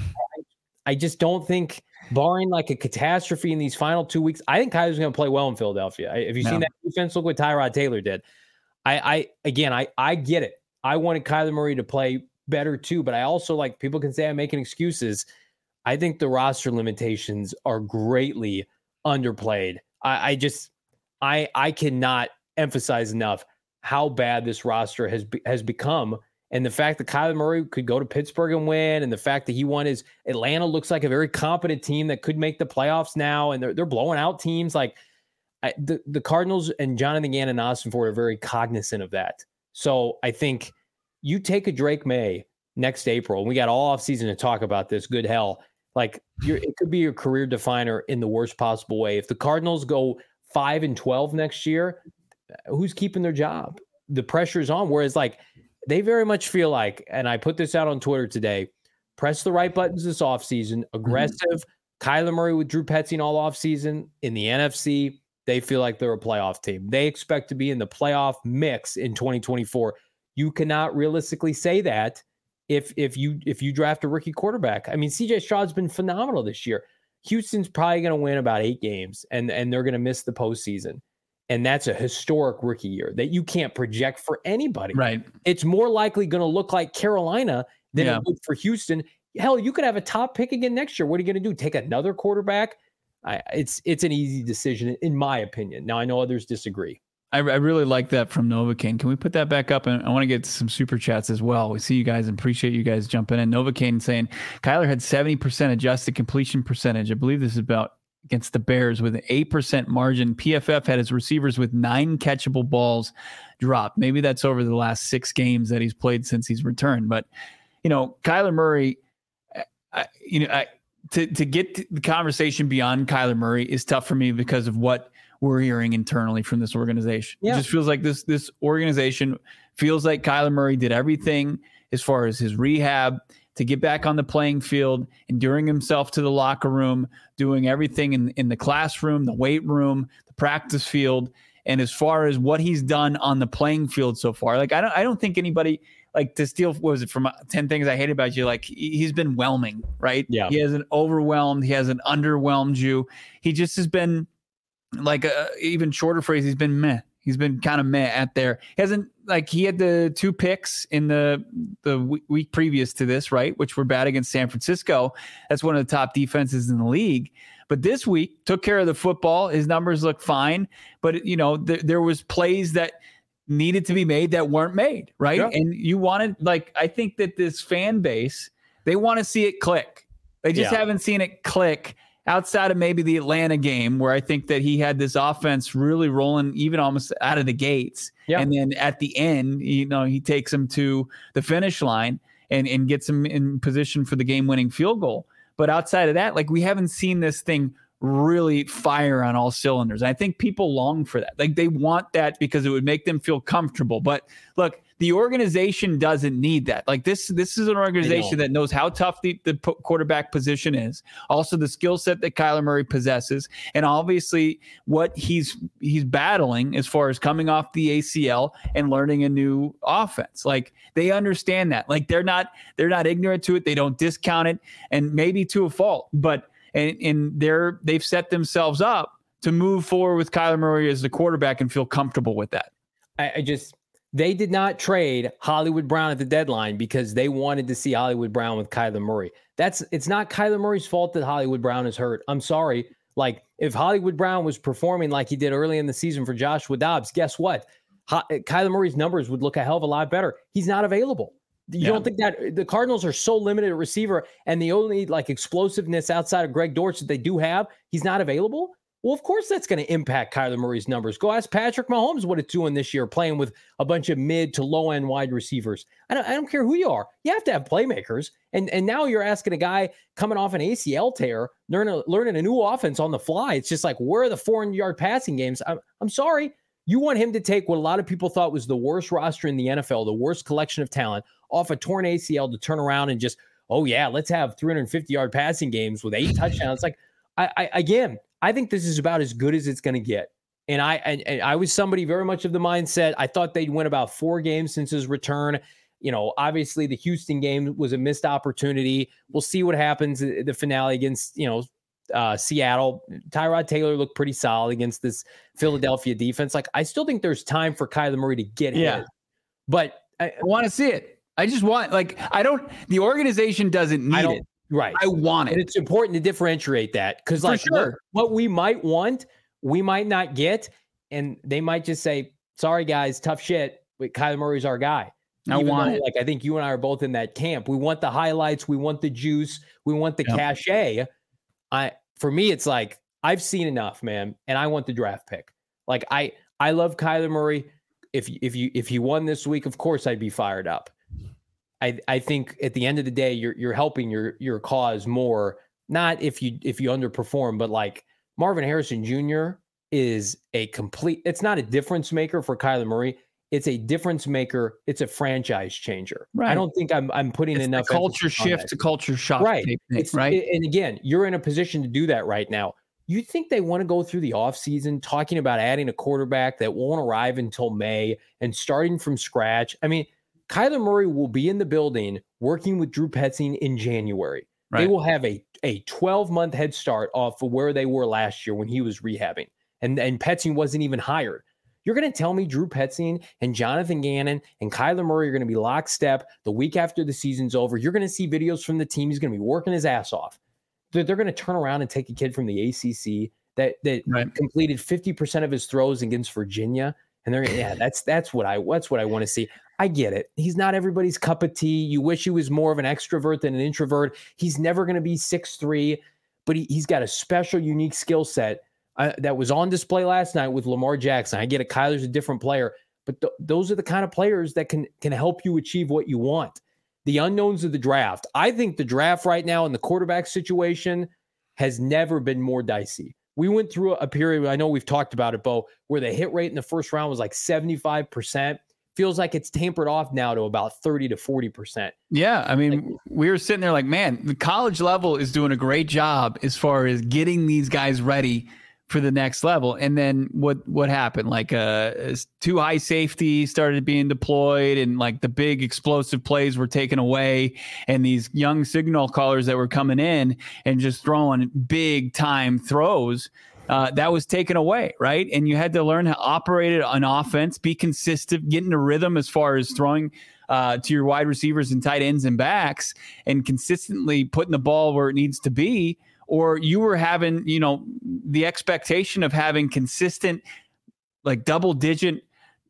[SPEAKER 3] I just don't think, barring like a catastrophe in these final two weeks, I think Kyler's going to play well in Philadelphia. I, have you no. seen that defense? Look what Tyrod Taylor did. I, I again, I, I get it. I wanted Kyler Murray to play better too, but I also, like, people can say I'm making excuses. I think the roster limitations are greatly underplayed. I, I just, I, I cannot emphasize enough how bad this roster has be, has become. And the fact that Kyler Murray could go to Pittsburgh and win, and the fact that he won his Atlanta looks like a very competent team that could make the playoffs now, and they're they're blowing out teams. Like I, the the Cardinals and Jonathan Gannon and Austin Ford are very cognizant of that. So I think you take a Drake May next April, and we got all offseason to talk about this. Good hell, like you're, it could be your career definer in the worst possible way. If the Cardinals go five and twelve next year, who's keeping their job? The pressure is on. Whereas like. They very much feel like, and I put this out on Twitter today, press the right buttons this offseason, aggressive. Mm-hmm. Kyler Murray with Drew Petzing all offseason. In the N F C, they feel like they're a playoff team. They expect to be in the playoff mix in twenty twenty-four. You cannot realistically say that if if you if you draft a rookie quarterback. I mean, C J Stroud's been phenomenal this year. Houston's probably going to win about eight games, and, and they're going to miss the postseason. And that's a historic rookie year that you can't project for anybody.
[SPEAKER 2] Right.
[SPEAKER 3] It's more likely going to look like Carolina than yeah. it would for Houston. Hell, you could have a top pick again next year. What are you going to do? Take another quarterback? I, it's it's an easy decision, in my opinion. Now, I know others disagree.
[SPEAKER 2] I, I really like that from Novocaine. Can we put that back up? And I want to get some super chats as well. We see you guys and appreciate you guys jumping in. Novocaine saying Kyler had seventy percent adjusted completion percentage. I believe this is about against the Bears with an eight percent margin. P F F had his receivers with nine catchable balls dropped. Maybe that's over the last six games that he's played since he's returned. But, you know, Kyler Murray, I, you know, I, to, to get the conversation beyond Kyler Murray is tough for me because of what we're hearing internally from this organization. Yeah. It just feels like this, this organization feels like Kyler Murray did everything as far as his rehab to get back on the playing field, enduring himself to the locker room, doing everything in, in the classroom, the weight room, the practice field. And as far as what he's done on the playing field so far, like, I don't, I don't think anybody, like, to steal, what was it, from ten Things I Hate About You, like, he's been whelming, right?
[SPEAKER 3] Yeah.
[SPEAKER 2] He hasn't overwhelmed. He hasn't underwhelmed you. He just has been, like, a even shorter phrase, he's been meh. He's been kind of meh at there. He hasn't, like, he had the two picks in the the week previous to this, right, which were bad against San Francisco. That's one of the top defenses in the league. But this week, took care of the football. His numbers look fine. But, you know, th- there was plays that needed to be made that weren't made, right? Yeah. And you wanted, like, I think that this fan base, they want to see it click. They just
[SPEAKER 3] yeah.
[SPEAKER 2] haven't seen it click outside of maybe the Atlanta game, where I think that he had this offense really rolling even almost out of the gates.
[SPEAKER 3] Yeah.
[SPEAKER 2] And then at the end, you know, he takes them to the finish line and, and gets them in position for the game-winning field goal. But outside of that, like, we haven't seen this thing really fire on all cylinders. I think people long for that. Like, they want that because it would make them feel comfortable. But look, the organization doesn't need that. Like, this, this is an organization that knows how tough the, the quarterback position is. Also, the skill set that Kyler Murray possesses, and obviously what he's he's battling as far as coming off the A C L and learning a new offense. Like, they understand that. Like, they're not they're not ignorant to it. They don't discount it, and maybe to a fault, but. And, and they're they've set themselves up to move forward with Kyler Murray as the quarterback and feel comfortable with that.
[SPEAKER 3] I, I just they did not trade Hollywood Brown at the deadline because they wanted to see Hollywood Brown with Kyler Murray. That's it's not Kyler Murray's fault that Hollywood Brown is hurt. I'm sorry. Like, if Hollywood Brown was performing like he did early in the season for Joshua Dobbs, guess what? Ho- Kyler Murray's numbers would look a hell of a lot better. He's not available. You yeah. don't think that the Cardinals are so limited at receiver, and the only like explosiveness outside of Greg Dortch that they do have, he's not available? Well, of course that's going to impact Kyler Murray's numbers. Go ask Patrick Mahomes what it's doing this year, playing with a bunch of mid to low end wide receivers. I don't, I don't care who you are. You have to have playmakers. And and now you're asking a guy coming off an A C L tear, learning, learning a new offense on the fly. It's just like, where are the four hundred yard passing games? I'm, I'm sorry. You want him to take what a lot of people thought was the worst roster in the N F L, the worst collection of talent, off a torn A C L to turn around and just, oh yeah, let's have three hundred fifty yard passing games with eight touchdowns. Like, I, I again, I think this is about as good as it's going to get. And I, and, and I was somebody very much of the mindset. I thought they'd win about four games since his return. You know, obviously the Houston game was a missed opportunity. We'll see what happens at the finale against, you know, uh, Seattle. Tyrod Taylor looked pretty solid against this Philadelphia defense. Like, I still think there's time for Kyler Murray to get
[SPEAKER 2] yeah.
[SPEAKER 3] hit. But I,
[SPEAKER 2] I want to see it. I just want, like, I don't, the organization doesn't need it.
[SPEAKER 3] Right.
[SPEAKER 2] I want it.
[SPEAKER 3] And it's important to differentiate that, because, like,
[SPEAKER 2] sure.
[SPEAKER 3] what, what we might want, we might not get. And they might just say, sorry, guys, tough shit, but Kyler Murray's our guy.
[SPEAKER 2] I Even want though, it.
[SPEAKER 3] Like, I think you and I are both in that camp. We want the highlights. We want the juice. We want the yep. cachet. I, for me, it's like, I've seen enough, man. And I want the draft pick. Like, I, I love Kyler Murray. If, if you, if he won this week, of course I'd be fired up. I, I think at the end of the day, you're, you're helping your, your cause more. Not if you, if you underperform, but like Marvin Harrison Junior is a complete, it's not a difference maker for Kyler Murray. It's a difference maker. It's a franchise changer. Right. I don't think I'm I'm putting
[SPEAKER 2] it's
[SPEAKER 3] enough
[SPEAKER 2] culture shift to culture shock.
[SPEAKER 3] Right.
[SPEAKER 2] Thing,
[SPEAKER 3] it's,
[SPEAKER 2] right.
[SPEAKER 3] It, and again, you're in a position to do that right now. You think they want to go through the offseason talking about adding a quarterback that won't arrive until May and starting from scratch? I mean, Kyler Murray will be in the building working with Drew Petzing in January. Right. They will have a a twelve-month head start off of where they were last year when he was rehabbing. And, and Petzing wasn't even hired. You're going to tell me Drew Petzing and Jonathan Gannon and Kyler Murray are going to be lockstep the week after the season's over. You're going to see videos from the team. He's going to be working his ass off. They're, they're going to turn around and take a kid from the A C C that that right. completed fifty percent of his throws against Virginia. And they're yeah, that's that's what I that's what I want to see. I get it. He's not everybody's cup of tea. You wish he was more of an extrovert than an introvert. He's never going to be six three, but he, he's got a special, unique skill set uh, that was on display last night with Lamar Jackson. I get it. Kyler's a different player, but th- those are the kind of players that can can help you achieve what you want. The unknowns of the draft. I think the draft right now in the quarterback situation has never been more dicey. We went through a period, I know we've talked about it, Bo, where the hit rate in the first round was like seventy-five percent. Feels like it's tapered off now to about thirty to forty percent.
[SPEAKER 2] Yeah. I mean, like, we were sitting there like, man, the college level is doing a great job as far as getting these guys ready for the next level. And then what, what happened? Like uh, two high safety started being deployed, and like the big explosive plays were taken away. And these young signal callers that were coming in and just throwing big time throws, Uh, that was taken away, right? And you had to learn how to operate an offense, be consistent, get into rhythm as far as throwing uh, to your wide receivers and tight ends and backs, and consistently putting the ball where it needs to be. Or you were having, you know, the expectation of having consistent, like double-digit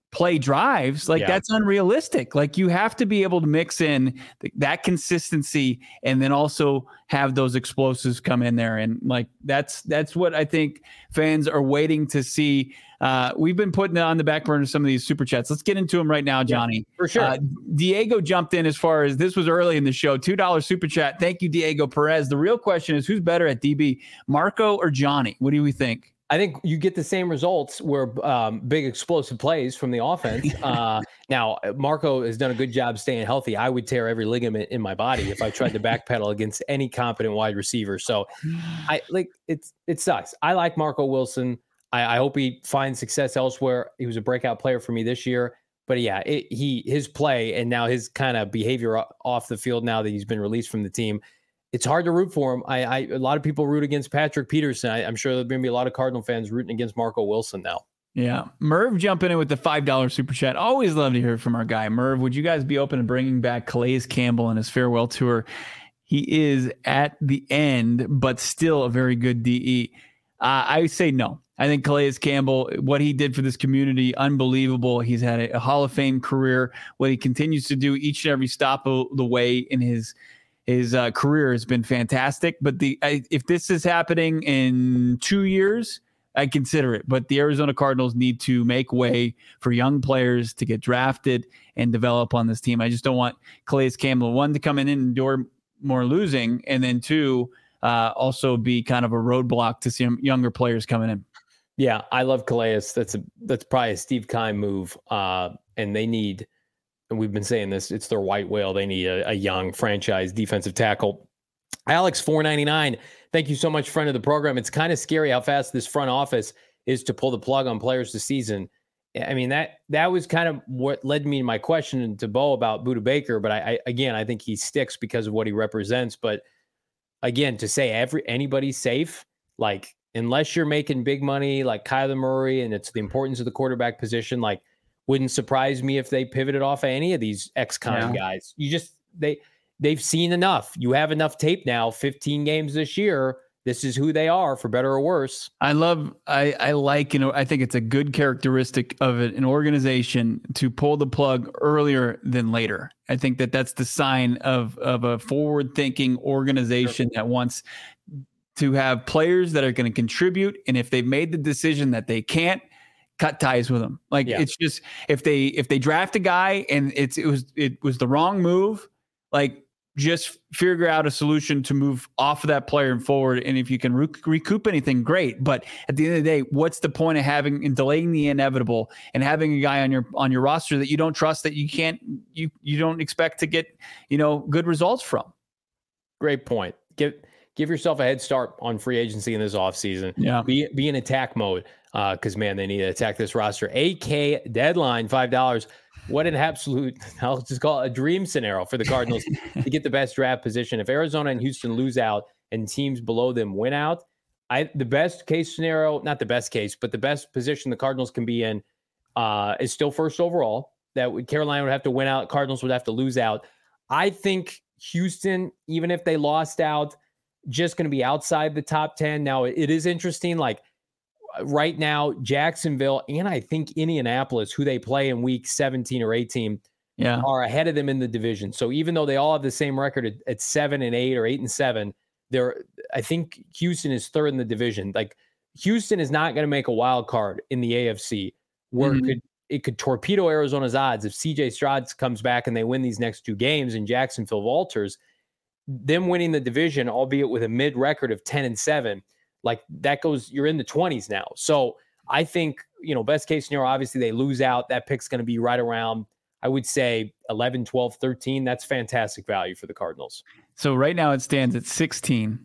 [SPEAKER 2] play drives. Like,
[SPEAKER 3] yeah.
[SPEAKER 2] that's unrealistic. Like, you have to be able to mix in th- that consistency and then also have those explosives come in there. And like, that's, that's what I think fans are waiting to see. Uh, we've been putting on the back burner some of these super chats. Let's get into them right now, Johnny.
[SPEAKER 3] Yeah, for sure.
[SPEAKER 2] Uh, Diego jumped in as far as this was early in the show. two dollars super chat. Thank you, Diego Perez. The real question is, who's better at D B, Marco or Johnny? What do we think?
[SPEAKER 3] I think you get the same results where um, big explosive plays from the offense. Uh, now, Marco has done a good job staying healthy. I would tear every ligament in my body if I tried to backpedal against any competent wide receiver. So I like it's, it sucks. I like Marco Wilson. I, I hope he finds success elsewhere. He was a breakout player for me this year, but yeah, it, he, his play and now his kind of behavior off the field now that he's been released from the team, it's hard to root for him. I, I a lot of people root against Patrick Peterson. I, I'm sure there's going to be a lot of Cardinal fans rooting against Marco Wilson now.
[SPEAKER 2] Yeah. Merv jumping in with the five dollars super chat. Always love to hear from our guy. Merv, would you guys be open to bringing back Calais Campbell in his farewell tour? He is at the end, but still a very good D E. Uh, I say no. I think Calais Campbell, what he did for this community, unbelievable. He's had a, a Hall of Fame career. What he continues to do each and every stop of the way in his His uh, career has been fantastic, but the I, if this is happening in two years, I consider it. But the Arizona Cardinals need to make way for young players to get drafted and develop on this team. I just don't want Calais Campbell, one, to come in and endure more losing, and then two, uh, also be kind of a roadblock to some younger players coming in.
[SPEAKER 3] Yeah, I love Calais. That's a that's probably a Steve Keim move, uh, and they need. And we've been saying this, it's their white whale. They need a, a young franchise defensive tackle. Alex four ninety-nine, thank you so much, friend of the program. It's kind of scary how fast this front office is to pull the plug on players this season. I mean, that that was kind of what led me to my question to Bo about Budda Baker. But I, I again, I think he sticks because of what he represents. But again, to say every anybody's safe, like unless you're making big money like Kyler Murray, and it's the importance of the quarterback position, like wouldn't surprise me if they pivoted off of any of these ex-con yeah. guys. You just they they've seen enough. You have enough tape now. fifteen games this year. This is who they are, for better or worse.
[SPEAKER 2] I love, I, I like, you know, I think it's a good characteristic of it, an organization to pull the plug earlier than later. I think that that's the sign of, of a forward-thinking organization sure. that wants to have players that are going to contribute. And if they've made the decision that they can't, cut ties with them. Like yeah. it's just, if they, if they draft a guy and it's, it was, it was the wrong move, like just figure out a solution to move off of that player and forward. And if you can rec- recoup anything, great. But at the end of the day, what's the point of having and delaying the inevitable and having a guy on your, on your roster that you don't trust, that you can't, you, you don't expect to get, you know, good results from?
[SPEAKER 3] Great point. Give, give yourself a head start on free agency in this offseason.
[SPEAKER 2] Yeah.
[SPEAKER 3] Be, be in attack mode. Uh, cause man, they need to attack this roster. A K deadline, five dollars. What an absolute, I'll just call it a dream scenario for the Cardinals to get the best draft position. If Arizona and Houston lose out and teams below them win out, I, the best case scenario, not the best case, but the best position the Cardinals can be in uh, is still first overall. That would, Carolina would have to win out. Cardinals would have to lose out. I think Houston, even if they lost out, just going to be outside the top ten. Now, it is interesting, like, right now, Jacksonville and I think Indianapolis, who they play in week seventeen or eighteen,
[SPEAKER 2] yeah.
[SPEAKER 3] are ahead of them in the division. So even though they all have the same record at, at seven and eight or eight and seven, they're, I think Houston is third in the division. Like Houston is not going to make a wild card in the A F C where mm-hmm. it could it could torpedo Arizona's odds if C J Stroud comes back and they win these next two games and Jacksonville falters. Them winning the division, albeit with a mid record of ten and seven. Like that goes, you're in the twenties now. So I think, you know, best case scenario, obviously they lose out. That pick's going to be right around, I would say eleven, twelve, thirteen. That's fantastic value for the Cardinals.
[SPEAKER 2] So right now it stands at sixteen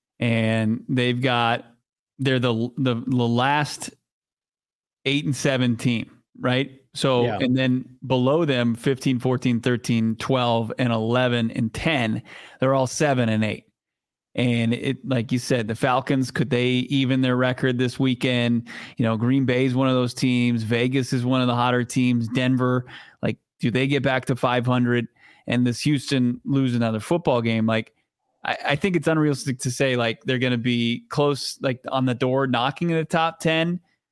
[SPEAKER 2] and they've got, they're the, the, the last eight and seven team, right? So, yeah. and then below them, fifteen, fourteen, thirteen, twelve, and eleven and ten, they're all seven and eight. And it, like you said, the Falcons, could they even their record this weekend? You know, Green Bay is one of those teams. Vegas is one of the hotter teams. Denver, like, do they get back to five hundred? And this Houston lose another football game? Like, I, I think it's unrealistic to say like they're going to be close, like on the door, knocking in the top ten.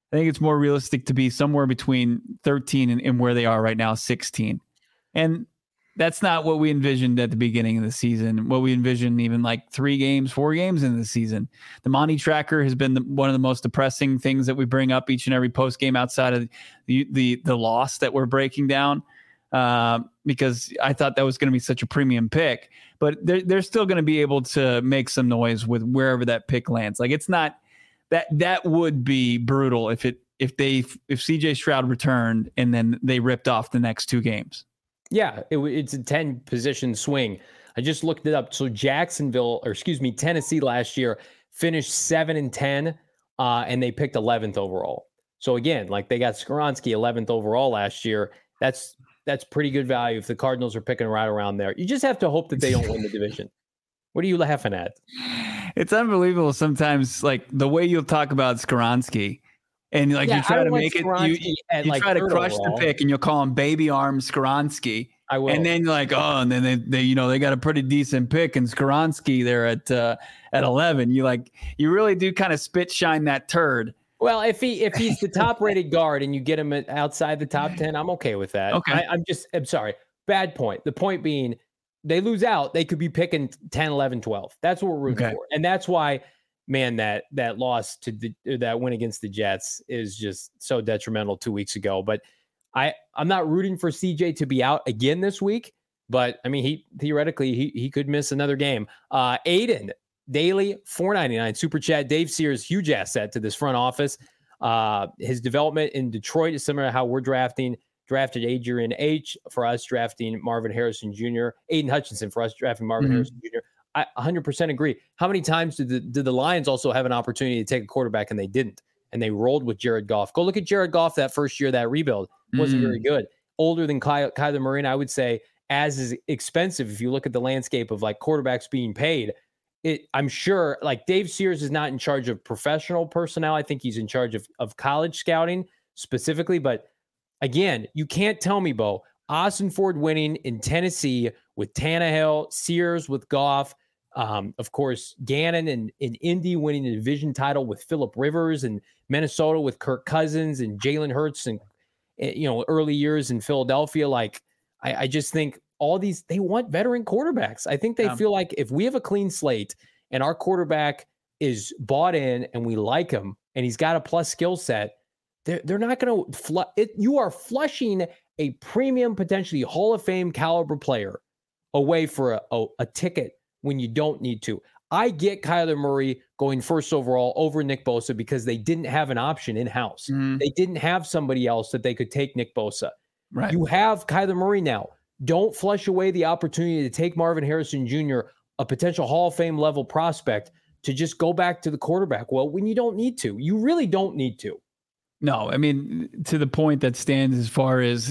[SPEAKER 2] I think it's more realistic to be somewhere between thirteen and, and where they are right now, sixteen. And that's not what we envisioned at the beginning of the season, what we envisioned even like three games, four games in the season. The Monty tracker has been the, one of the most depressing things that we bring up each and every post game outside of the, the, the loss that we're breaking down, uh, because I thought that was going to be such a premium pick. But they're, they're still going to be able to make some noise with wherever that pick lands. Like it's not that that would be brutal if it if they if C J Stroud returned and then they ripped off the next two games.
[SPEAKER 3] Yeah, it, it's a ten position swing. I just looked it up. So Jacksonville, or excuse me, Tennessee last year finished seven and ten, uh, and they picked eleventh overall. So again, like they got Skoronski eleventh overall last year. That's that's pretty good value if the Cardinals are picking right around there. You just have to hope that they don't win the division. What are you laughing at?
[SPEAKER 2] It's unbelievable sometimes, like the way you'll talk about Skoronski. And like yeah, you try to make it, you, you, you like try to crush overall. the pick, and you'll call him Baby Arm Skoronski.
[SPEAKER 3] I will.
[SPEAKER 2] And then you're like, oh, and then they, they, you know, they got a pretty decent pick, and Skoronski there at uh, at eleven. You like, you really do kind of spit shine that turd.
[SPEAKER 3] Well, if he if he's the top rated guard and you get him outside the top ten, I'm okay with that.
[SPEAKER 2] Okay,
[SPEAKER 3] I, I'm just, I'm sorry, bad point. The point being, they lose out, they could be picking ten, eleven, twelve. That's what we're rooting okay. for, and that's why. Man, that that loss to the, that win against the Jets is just so detrimental two weeks ago. But I I'm not rooting for C J to be out again this week. But I mean, he theoretically he he could miss another game. Uh, Aiden Daily four ninety-nine super chat. Dave Sears, huge asset to this front office. Uh, his development in Detroit is similar to how we're drafting. Drafted Adrian H for us, drafting Marvin Harrison Junior Aiden Hutchinson for us, drafting Marvin mm-hmm. Harrison Junior I one hundred percent agree. How many times did the, did the Lions also have an opportunity to take a quarterback and they didn't? And they rolled with Jared Goff. Go look at Jared Goff that first year, that rebuild. Wasn't mm. very good. Older than Ky- Kyler Murray, and I would say as is expensive if you look at the landscape of like quarterbacks being paid. It, I'm sure like Dave Sears is not in charge of professional personnel. I think he's in charge of, of college scouting specifically. But again, you can't tell me, Bo, Austin Ford winning in Tennessee with Tannehill, Sears with Goff, um, of course, Gannon and, and Indy winning the division title with Phillip Rivers, and Minnesota with Kirk Cousins and Jalen Hurts, and, you know, early years in Philadelphia. Like, I, I just think all these, they want veteran quarterbacks. I think they yeah. feel like if we have a clean slate and our quarterback is bought in and we like him and he's got a plus skill set, they're, they're not going to flush it. You are flushing a premium, potentially Hall of Fame caliber player away for a, a, a ticket when you don't need to. I get Kyler Murray going first overall over Nick Bosa because they didn't have an option in-house. Mm. They didn't have somebody else that they could take Nick Bosa.
[SPEAKER 2] Right.
[SPEAKER 3] You have Kyler Murray now. Don't flush away the opportunity to take Marvin Harrison Junior, a potential Hall of Fame level prospect, to just go back to the quarterback. Well, when you don't need to, you really don't need to.
[SPEAKER 2] No, I mean, to the point that stands as far as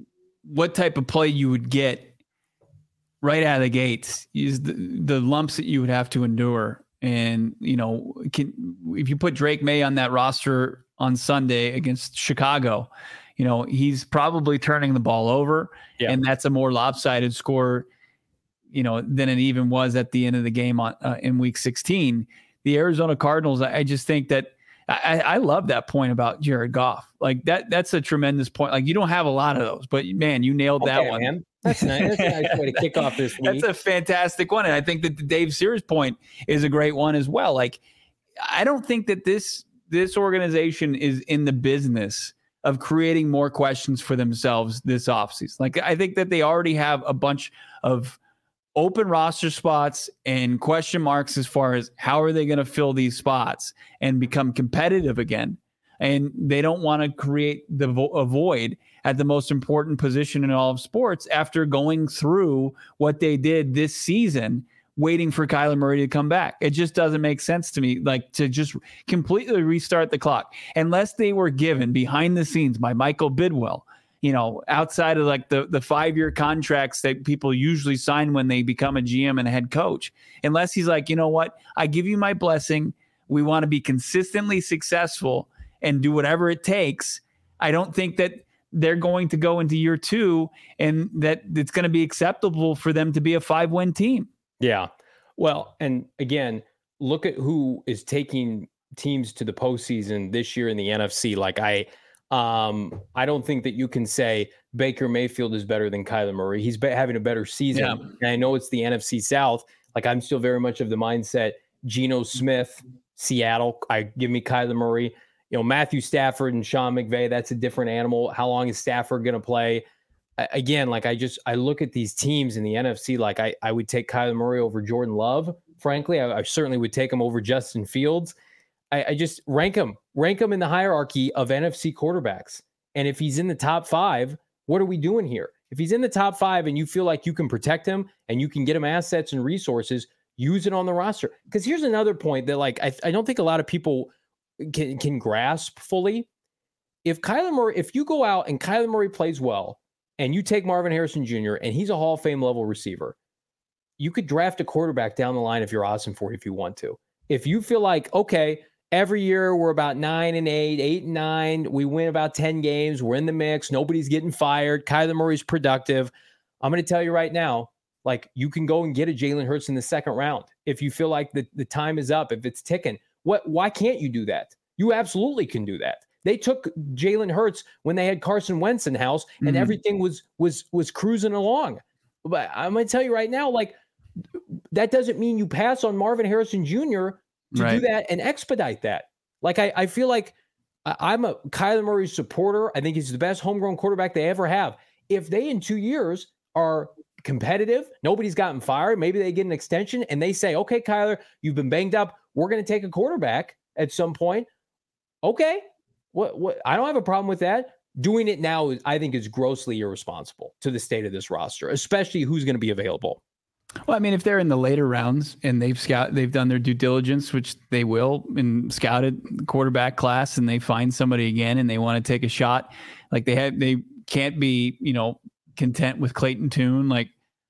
[SPEAKER 2] what type of play you would get right out of the gates is the, the lumps that you would have to endure. And, you know, can, if you put Drake May on that roster on Sunday against Chicago, you know, he's probably turning the ball over, yeah. and that's a more lopsided score, you know, than it even was at the end of the game on uh, in week sixteen. The Arizona Cardinals, I, I just think that I, I love that point about Jared Goff. Like that, that's a tremendous point. Like you don't have a lot of those, but man, you nailed
[SPEAKER 3] okay,
[SPEAKER 2] that one.
[SPEAKER 3] Man. That's nice. That's a nice way to kick off this week.
[SPEAKER 2] That's a fantastic one. And I think that the Dave Sears point is a great one as well. Like, I don't think that this, this organization is in the business of creating more questions for themselves this offseason. Like, I think that they already have a bunch of open roster spots and question marks as far as how are they going to fill these spots and become competitive again. And they don't want to create the vo- a void at the most important position in all of sports after going through what they did this season, waiting for Kyler Murray to come back. It just doesn't make sense to me, like to just completely restart the clock, unless they were given behind the scenes by Michael Bidwell, you know, outside of like the, the five-year contracts that people usually sign when they become a G M and a head coach, unless he's like, you know what, I give you my blessing. We want to be consistently successful and do whatever it takes. I don't think that they're going to go into year two and that it's going to be acceptable for them to be a five-win team.
[SPEAKER 3] Yeah. Well, and again, look at who is taking teams to the postseason this year in the N F C. Like I, um, I don't think that you can say Baker Mayfield is better than Kyler Murray. He's be- having a better season. Yeah. And I know it's the N F C South. Like I'm still very much of the mindset, Geno Smith, Seattle, I give me Kyler Murray. You know, Matthew Stafford and Sean McVay, that's a different animal. How long is Stafford going to play? I, again, like I just, I look at these teams in the N F C, like I, I would take Kyler Murray over Jordan Love. Frankly, I, I certainly would take him over Justin Fields. I, I just rank him, rank him in the hierarchy of N F C quarterbacks. And if he's in the top five, what are we doing here? If he's in the top five and you feel like you can protect him and you can get him assets and resources, use it on the roster. Because here's another point that like I, I don't think a lot of people can, can grasp fully. If Kyler Murray, if you go out and Kyler Murray plays well and you take Marvin Harrison Junior and he's a Hall of Fame level receiver, you could draft a quarterback down the line if you're awesome for it if you want to. If you feel like, okay, every year we're about nine and eight, eight and nine, we win about ten games, we're in the mix, nobody's getting fired, Kyler Murray's productive. I'm going to tell you right now, like you can go and get a Jalen Hurts in the second round if you feel like the, the time is up, if it's ticking. What? Why can't you do that? You absolutely can do that. They took Jalen Hurts when they had Carson Wentz in house and mm-hmm. everything was was was cruising along. But I'm going to tell you right now, like that doesn't mean you pass on Marvin Harrison Junior to right. do that and expedite that. Like I, I feel like I'm a Kyler Murray supporter. I think he's the best homegrown quarterback they ever have. If they in two years are competitive, nobody's gotten fired, maybe they get an extension and they say, okay, Kyler, you've been banged up, we're going to take a quarterback at some point. Okay, what what I don't have a problem with that. Doing it now, I think, is grossly irresponsible to the state of this roster, especially who's going to be available.
[SPEAKER 2] Well, I mean, if they're in the later rounds and they've scout, they've done their due diligence, which they will, and scouted the quarterback class, and they find somebody again and they want to take a shot, like they have, they can't be, you know, content with Clayton Tune. Like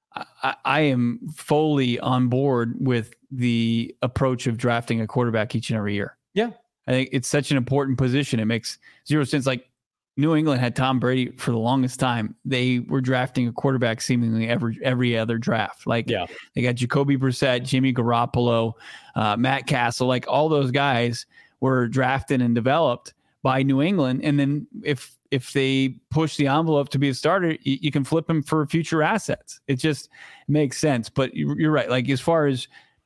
[SPEAKER 2] I, I am fully on board with the approach of drafting a quarterback each and every year.
[SPEAKER 3] Yeah.
[SPEAKER 2] I think it's such an important position. It makes zero sense. Like New England had Tom Brady for the longest time. They were drafting a quarterback seemingly every every other draft. Like
[SPEAKER 3] yeah.
[SPEAKER 2] they got Jacoby Brissett, Jimmy Garoppolo, uh, Matt Castle. Like all those guys were drafted and developed by New England. And then if if they push the envelope to be a starter, you, you can flip him for future assets. It just makes sense. But you're right. Like as far as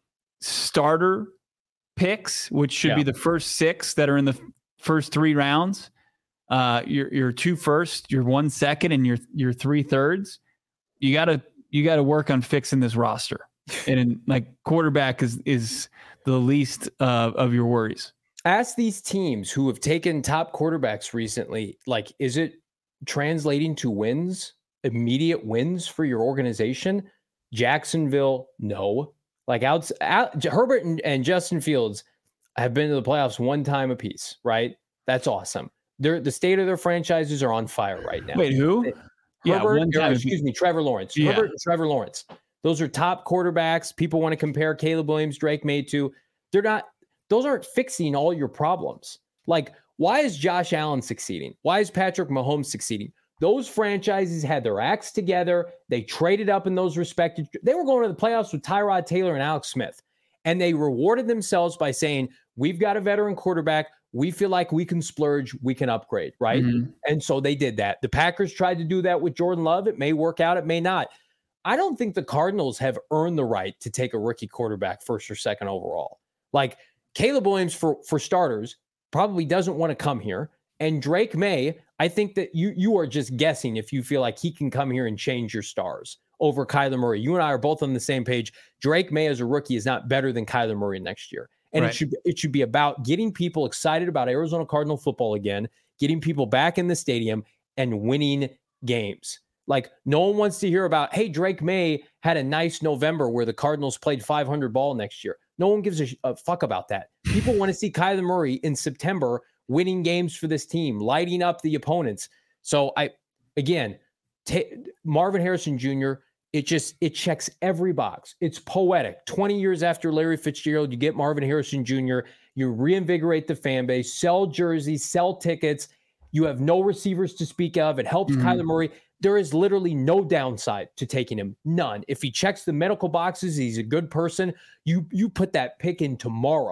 [SPEAKER 2] starter picks, which should yeah. be the first six that are in the first three rounds, uh, your your two first, your one second, and your your three thirds. You gotta you gotta work on fixing this roster, and like quarterback is is the least uh, of your worries.
[SPEAKER 3] Ask these teams who have taken top quarterbacks recently, like, is it translating to wins, immediate wins for your organization? Jacksonville, no. Like out, out Herbert and, and Justin Fields have been to the playoffs one time apiece, right? That's awesome. They're, the state of their franchises are on fire right now.
[SPEAKER 2] Wait, who?
[SPEAKER 3] Herbert,
[SPEAKER 2] yeah, one time.
[SPEAKER 3] Or, excuse me, Trevor Lawrence.
[SPEAKER 2] Yeah.
[SPEAKER 3] Herbert and Trevor Lawrence. Those are top quarterbacks. People want to compare Caleb Williams, Drake May to. They're not. Those aren't fixing all your problems. Like, why is Josh Allen succeeding? Why is Patrick Mahomes succeeding? Those franchises had their acts together. They traded up in those respected. They were going to the playoffs with Tyrod Taylor and Alex Smith. And they rewarded themselves by saying, we've got a veteran quarterback. We feel like we can splurge. We can upgrade, right? Mm-hmm. And so they did that. The Packers tried to do that with Jordan Love. It may work out. It may not. I don't think the Cardinals have earned the right to take a rookie quarterback first or second overall. Like Caleb Williams, for, for starters, probably doesn't want to come here. And Drake May, I think that you you are just guessing if you feel like he can come here and change your stars over Kyler Murray. You and I are both on the same page. Drake May as a rookie is not better than Kyler Murray next year. And right. it should it should be about getting people excited about Arizona Cardinal football again, getting people back in the stadium and winning games. Like no one wants to hear about, hey, Drake May had a nice November where the Cardinals played five hundred ball next year. No one gives a, a fuck about that. People want to see Kyler Murray in September winning games for this team, lighting up the opponents. So I, again, t- Marvin Harrison Junior, it just, it checks every box. It's poetic. twenty years after Larry Fitzgerald, you get Marvin Harrison Junior, you reinvigorate the fan base, sell jerseys, sell tickets. You have no receivers to speak of. It helps mm-hmm. Kyler Murray. There is literally no downside to taking him. None. If he checks the medical boxes, he's a good person. You, you put that pick in tomorrow.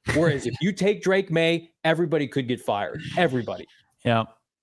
[SPEAKER 3] Whereas if you take Drake May, everybody could get fired. Everybody.
[SPEAKER 2] Yeah.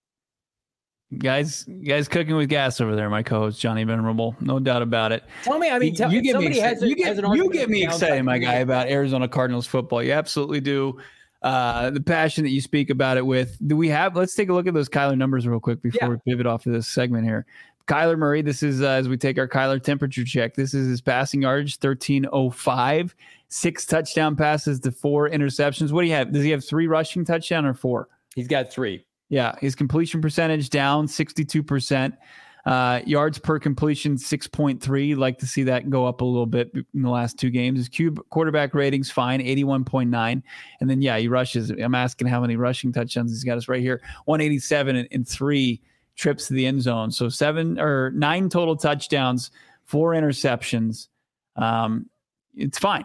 [SPEAKER 2] Guys, guys cooking with gas over there, my co-host Johnny Venerable. No doubt about it.
[SPEAKER 3] Tell me, I mean, tell,
[SPEAKER 2] you get me
[SPEAKER 3] excited.
[SPEAKER 2] Has a, you get, has you get me excited, my guy, about Arizona Cardinals football. You absolutely do. Uh, the passion that you speak about it with. Do we have, let's take a look at those Kyler numbers real quick before yeah. we pivot off of this segment here. Kyler Murray, this is uh, as we take our Kyler temperature check. This is his passing yardage, thirteen oh five, six touchdown passes to four interceptions. What do you have? Does he have three rushing touchdown or four?
[SPEAKER 3] He's got three.
[SPEAKER 2] Yeah. His completion percentage down sixty-two percent. Uh, yards per completion, six point three. Like to see that go up a little bit in the last two games. His Q quarterback ratings, fine, eighty-one point nine. And then, yeah, he rushes. I'm asking how many rushing touchdowns he's got us right here. one eighty-seven and, and three trips to the end zone. So seven or nine total touchdowns, four interceptions. Um, it's fine.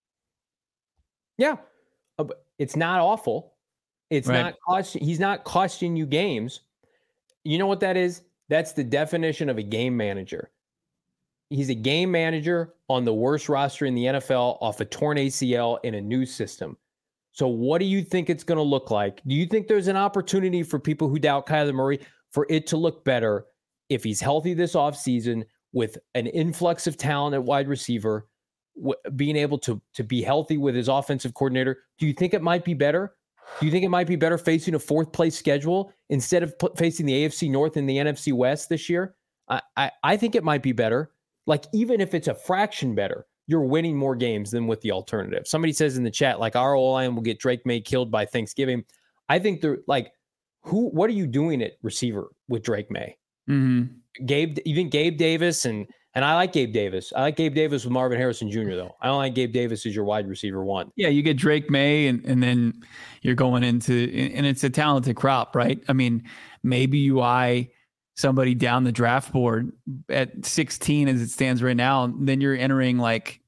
[SPEAKER 3] Yeah. It's not awful. It's right. not cost. He's not costing you games. You know what that is? That's the definition of a game manager. He's a game manager on the worst roster in the N F L off a torn A C L in a new system. So what do you think it's going to look like? Do you think there's an opportunity for people who doubt Kyler Murray for it to look better if he's healthy this offseason with an influx of talent at wide receiver, w- being able to, to be healthy with his offensive coordinator? Do you think it might be better? Do you think it might be better facing a fourth place schedule instead of p- facing the A F C North and the N F C West this year? I, I, I think it might be better. Like, even if it's a fraction better, you're winning more games than with the alternative. Somebody says in the chat, like, our O-line will get Drake May killed by Thanksgiving. I think they're like, who, what are you doing at receiver with Drake May?
[SPEAKER 2] Mm-hmm.
[SPEAKER 3] Gabe, even Gabe Davis, and and I like Gabe Davis. I like Gabe Davis with Marvin Harrison Junior, though. I don't like Gabe Davis as your wide receiver one.
[SPEAKER 2] Yeah, you get Drake May, and, and then you're going into, and it's a talented crop, right? I mean, maybe you eye somebody down the draft board at sixteen as it stands right now, and then you're entering like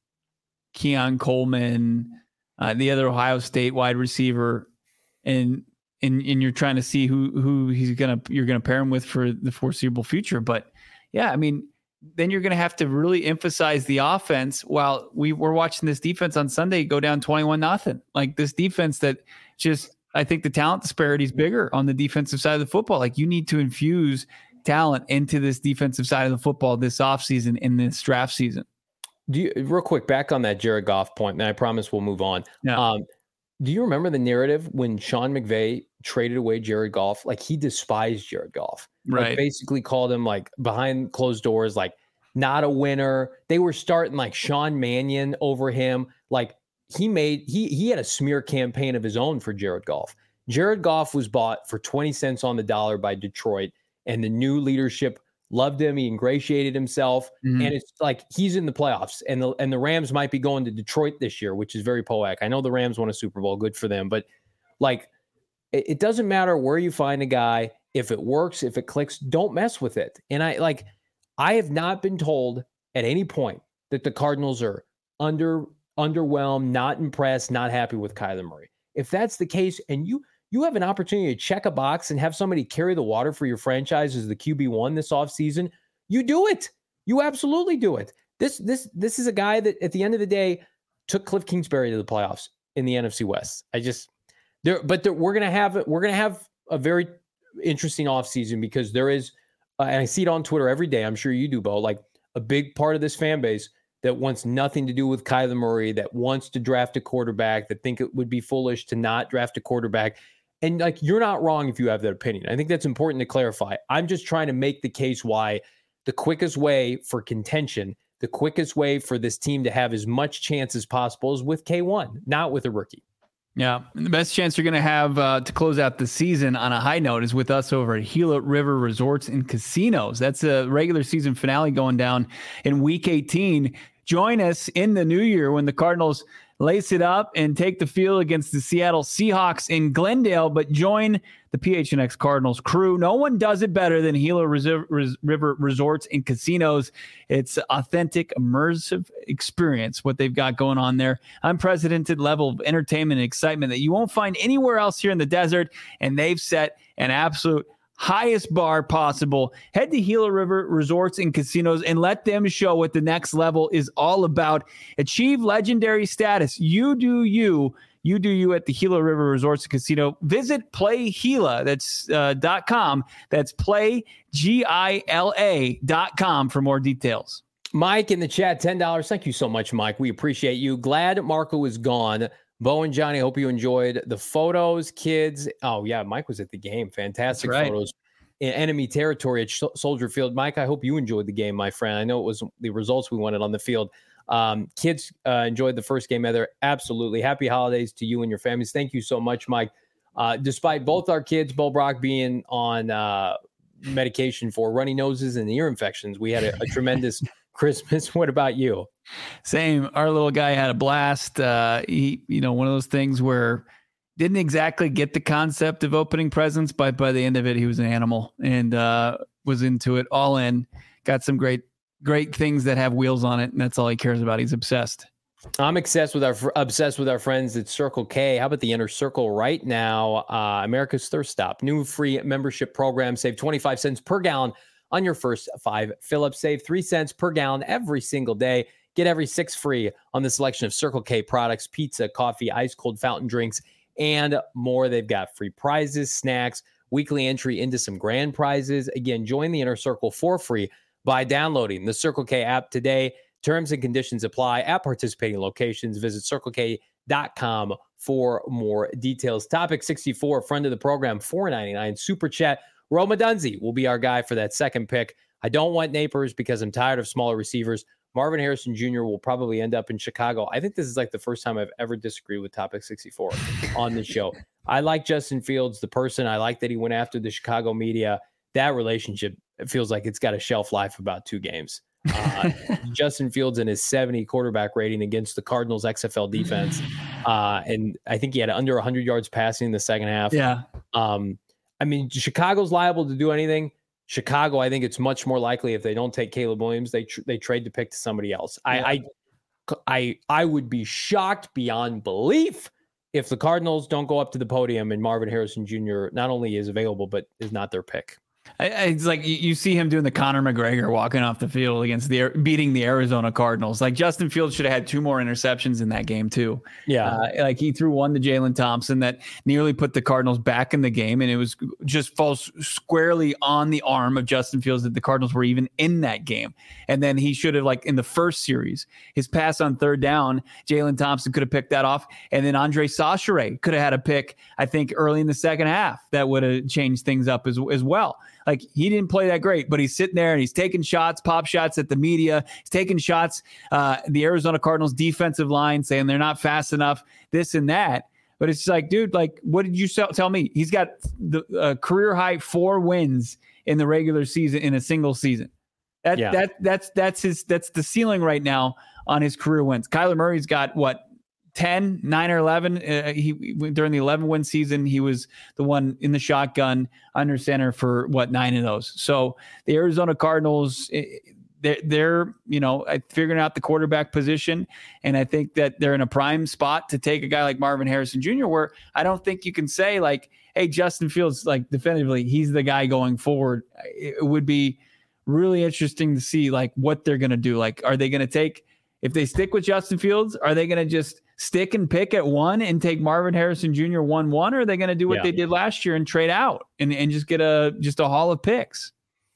[SPEAKER 2] Keon Coleman, uh, the other Ohio State wide receiver, and and and you're trying to see who who he's gonna you're gonna pair him with for the foreseeable future. But yeah, I mean, then you're gonna have to really emphasize the offense. While we were watching this defense on Sunday go down twenty-one nothing, like this defense that just, I think the talent disparity is bigger on the defensive side of the football. Like, you need to infuse talent into this defensive side of the football this offseason, in this draft season.
[SPEAKER 3] Do you, real quick, back on that Jared Goff point, and I promise we'll move on.
[SPEAKER 2] Yeah.
[SPEAKER 3] Um, do you remember the narrative when Sean McVay traded away Jared Goff? Like, he despised Jared Goff.
[SPEAKER 2] Right.
[SPEAKER 3] Like, basically called him, like, behind closed doors, like, not a winner. They were starting like Sean Mannion over him. Like, he made, he he had a smear campaign of his own for Jared Goff. Jared Goff was bought for twenty cents on the dollar by Detroit, and the new leadership loved him. He ingratiated himself, mm-hmm. and it's like he's in the playoffs, and the and the Rams might be going to Detroit this year, which is very poetic. I know the Rams won a Super Bowl, good for them, but like, it, it doesn't matter where you find a guy. If it works, if it clicks, don't mess with it. And I like, I have not been told at any point that the Cardinals are under underwhelmed, not impressed, not happy with Kyler Murray. If that's the case, and you you have an opportunity to check a box and have somebody carry the water for your franchise as the Q B one this offseason, you do it. You absolutely do it. This this this is a guy that at the end of the day took Cliff Kingsbury to the playoffs in the N F C West. I just there, but there, we're gonna have we're gonna have a very interesting offseason, because there is, uh, and I see it on Twitter every day. I'm sure you do, Bo. Like, a big part of this fan base that wants nothing to do with Kyler Murray, that wants to draft a quarterback, that think it would be foolish to not draft a quarterback. And like, you're not wrong if you have that opinion. I think that's important to clarify. I'm just trying to make the case why the quickest way for contention, the quickest way for this team to have as much chance as possible is with K one, not with a rookie.
[SPEAKER 2] Yeah. And the best chance you're going to have uh, to close out the season on a high note is with us over at Gila River Resorts and Casinos. That's a regular season finale going down in week eighteen. Join us in the new year when the Cardinals lace it up and take the field against the Seattle Seahawks in Glendale, but join the P H N X Cardinals crew. No one does it better than Gila River Resorts and Casinos. It's authentic, immersive experience, what they've got going on there. Unprecedented level of entertainment and excitement that you won't find anywhere else here in the desert, and they've set an absolute highest bar possible. Head to Gila River Resorts and Casinos and let them show what the next level is all about. Achieve legendary status. You do you. You do you at the Gila River Resorts and Casino. Visit Play Gila. That's uh, .com. That's Play G I L A dot com for more details.
[SPEAKER 3] Mike in the chat, ten dollars. Thank you so much, Mike. We appreciate you. Glad Marco is gone. Bo and Johnny, hope you enjoyed the photos, kids. Oh, yeah, Mike was at the game. Fantastic right. photos in enemy territory at Soldier Field. Mike, I hope you enjoyed the game, my friend. I know it was the results we wanted on the field. Um, kids uh, enjoyed the first game either. Absolutely. Happy holidays to you and your families. Thank you so much, Mike. Uh, despite both our kids, Bo Brock, being on uh, medication for runny noses and ear infections, we had a, a tremendous Christmas. What about you?
[SPEAKER 2] Same. Our little guy had a blast. Uh, he, you know, one of those things where didn't exactly get the concept of opening presents, but by the end of it, he was an animal and uh, was into it all in. Got some great, great things that have wheels on it, and that's all he cares about. He's obsessed.
[SPEAKER 3] I'm obsessed with our obsessed with our friends at Circle K. How about the Inner Circle right now? Uh, America's Thirst Stop. New free membership program. Save twenty-five cents per gallon on your first five fill-ups. Save three cents per gallon every single day. Get every six free on the selection of Circle K products, pizza, coffee, ice-cold fountain drinks, and more. They've got free prizes, snacks, weekly entry into some grand prizes. Again, join the Inner Circle for free by downloading the Circle K app today. Terms and conditions apply at participating locations. Visit circle k dot com for more details. Topic sixty-four, friend of the program, four ninety-nine Super Chat. Roma Dunzi will be our guy for that second pick. I don't want Napers because I'm tired of smaller receivers. Marvin Harrison Junior will probably end up in Chicago. I think this is like the first time I've ever disagreed with Topic sixty-four on the show. I like Justin Fields, the person. I like that he went after the Chicago media. That relationship, it feels like it's got a shelf life of about two games. Uh, Justin Fields and his seventy quarterback rating against the Cardinals X F L defense. Uh, and I think he had under one hundred yards passing in the second half.
[SPEAKER 2] Yeah.
[SPEAKER 3] Um, I mean, Chicago's liable to do anything. Chicago, I think it's much more likely if they don't take Caleb Williams, they tr- they trade to pick to somebody else. Yeah. I, I I I would be shocked beyond belief if the Cardinals don't go up to the podium and Marvin Harrison Junior not only is available, but is not their pick.
[SPEAKER 2] I, it's like you, you see him doing the Conor McGregor walking off the field against the beating the Arizona Cardinals. Like Justin Fields should have had two more interceptions in that game too.
[SPEAKER 3] Yeah,
[SPEAKER 2] uh, like he threw one to Jalen Thompson that nearly put the Cardinals back in the game, and it was just falls squarely on the arm of Justin Fields that the Cardinals were even in that game. And then he should have, like in the first series, his pass on third down, Jalen Thompson could have picked that off, and then Andre Sachere could have had a pick, I think, early in the second half that would have changed things up as as well. Like he didn't play that great, but he's sitting there and he's taking shots, pop shots at the media. He's taking shots, uh, the Arizona Cardinals defensive line saying they're not fast enough, this and that. But it's like, dude, like, what did you tell me? He's got the uh, career high four wins in the regular season in a single season. That yeah. that that's that's his that's the ceiling right now on his career wins. Kyler Murray's got what? ten, nine or eleven. Uh, he during the eleven win season, he was the one in the shotgun under center for what, nine of those. So the Arizona Cardinals, they're, they're you know figuring out the quarterback position, and I think that they're in a prime spot to take a guy like Marvin Harrison Junior Where I don't think you can say like, hey, Justin Fields, like definitively, he's the guy going forward. It would be really interesting to see like what they're going to do. Like, are they going to take? If they stick with Justin Fields, are they going to just stick and pick at one and take Marvin Harrison Junior one one, or are they going to do what yeah. they did last year and trade out and, and just get a just a haul of picks?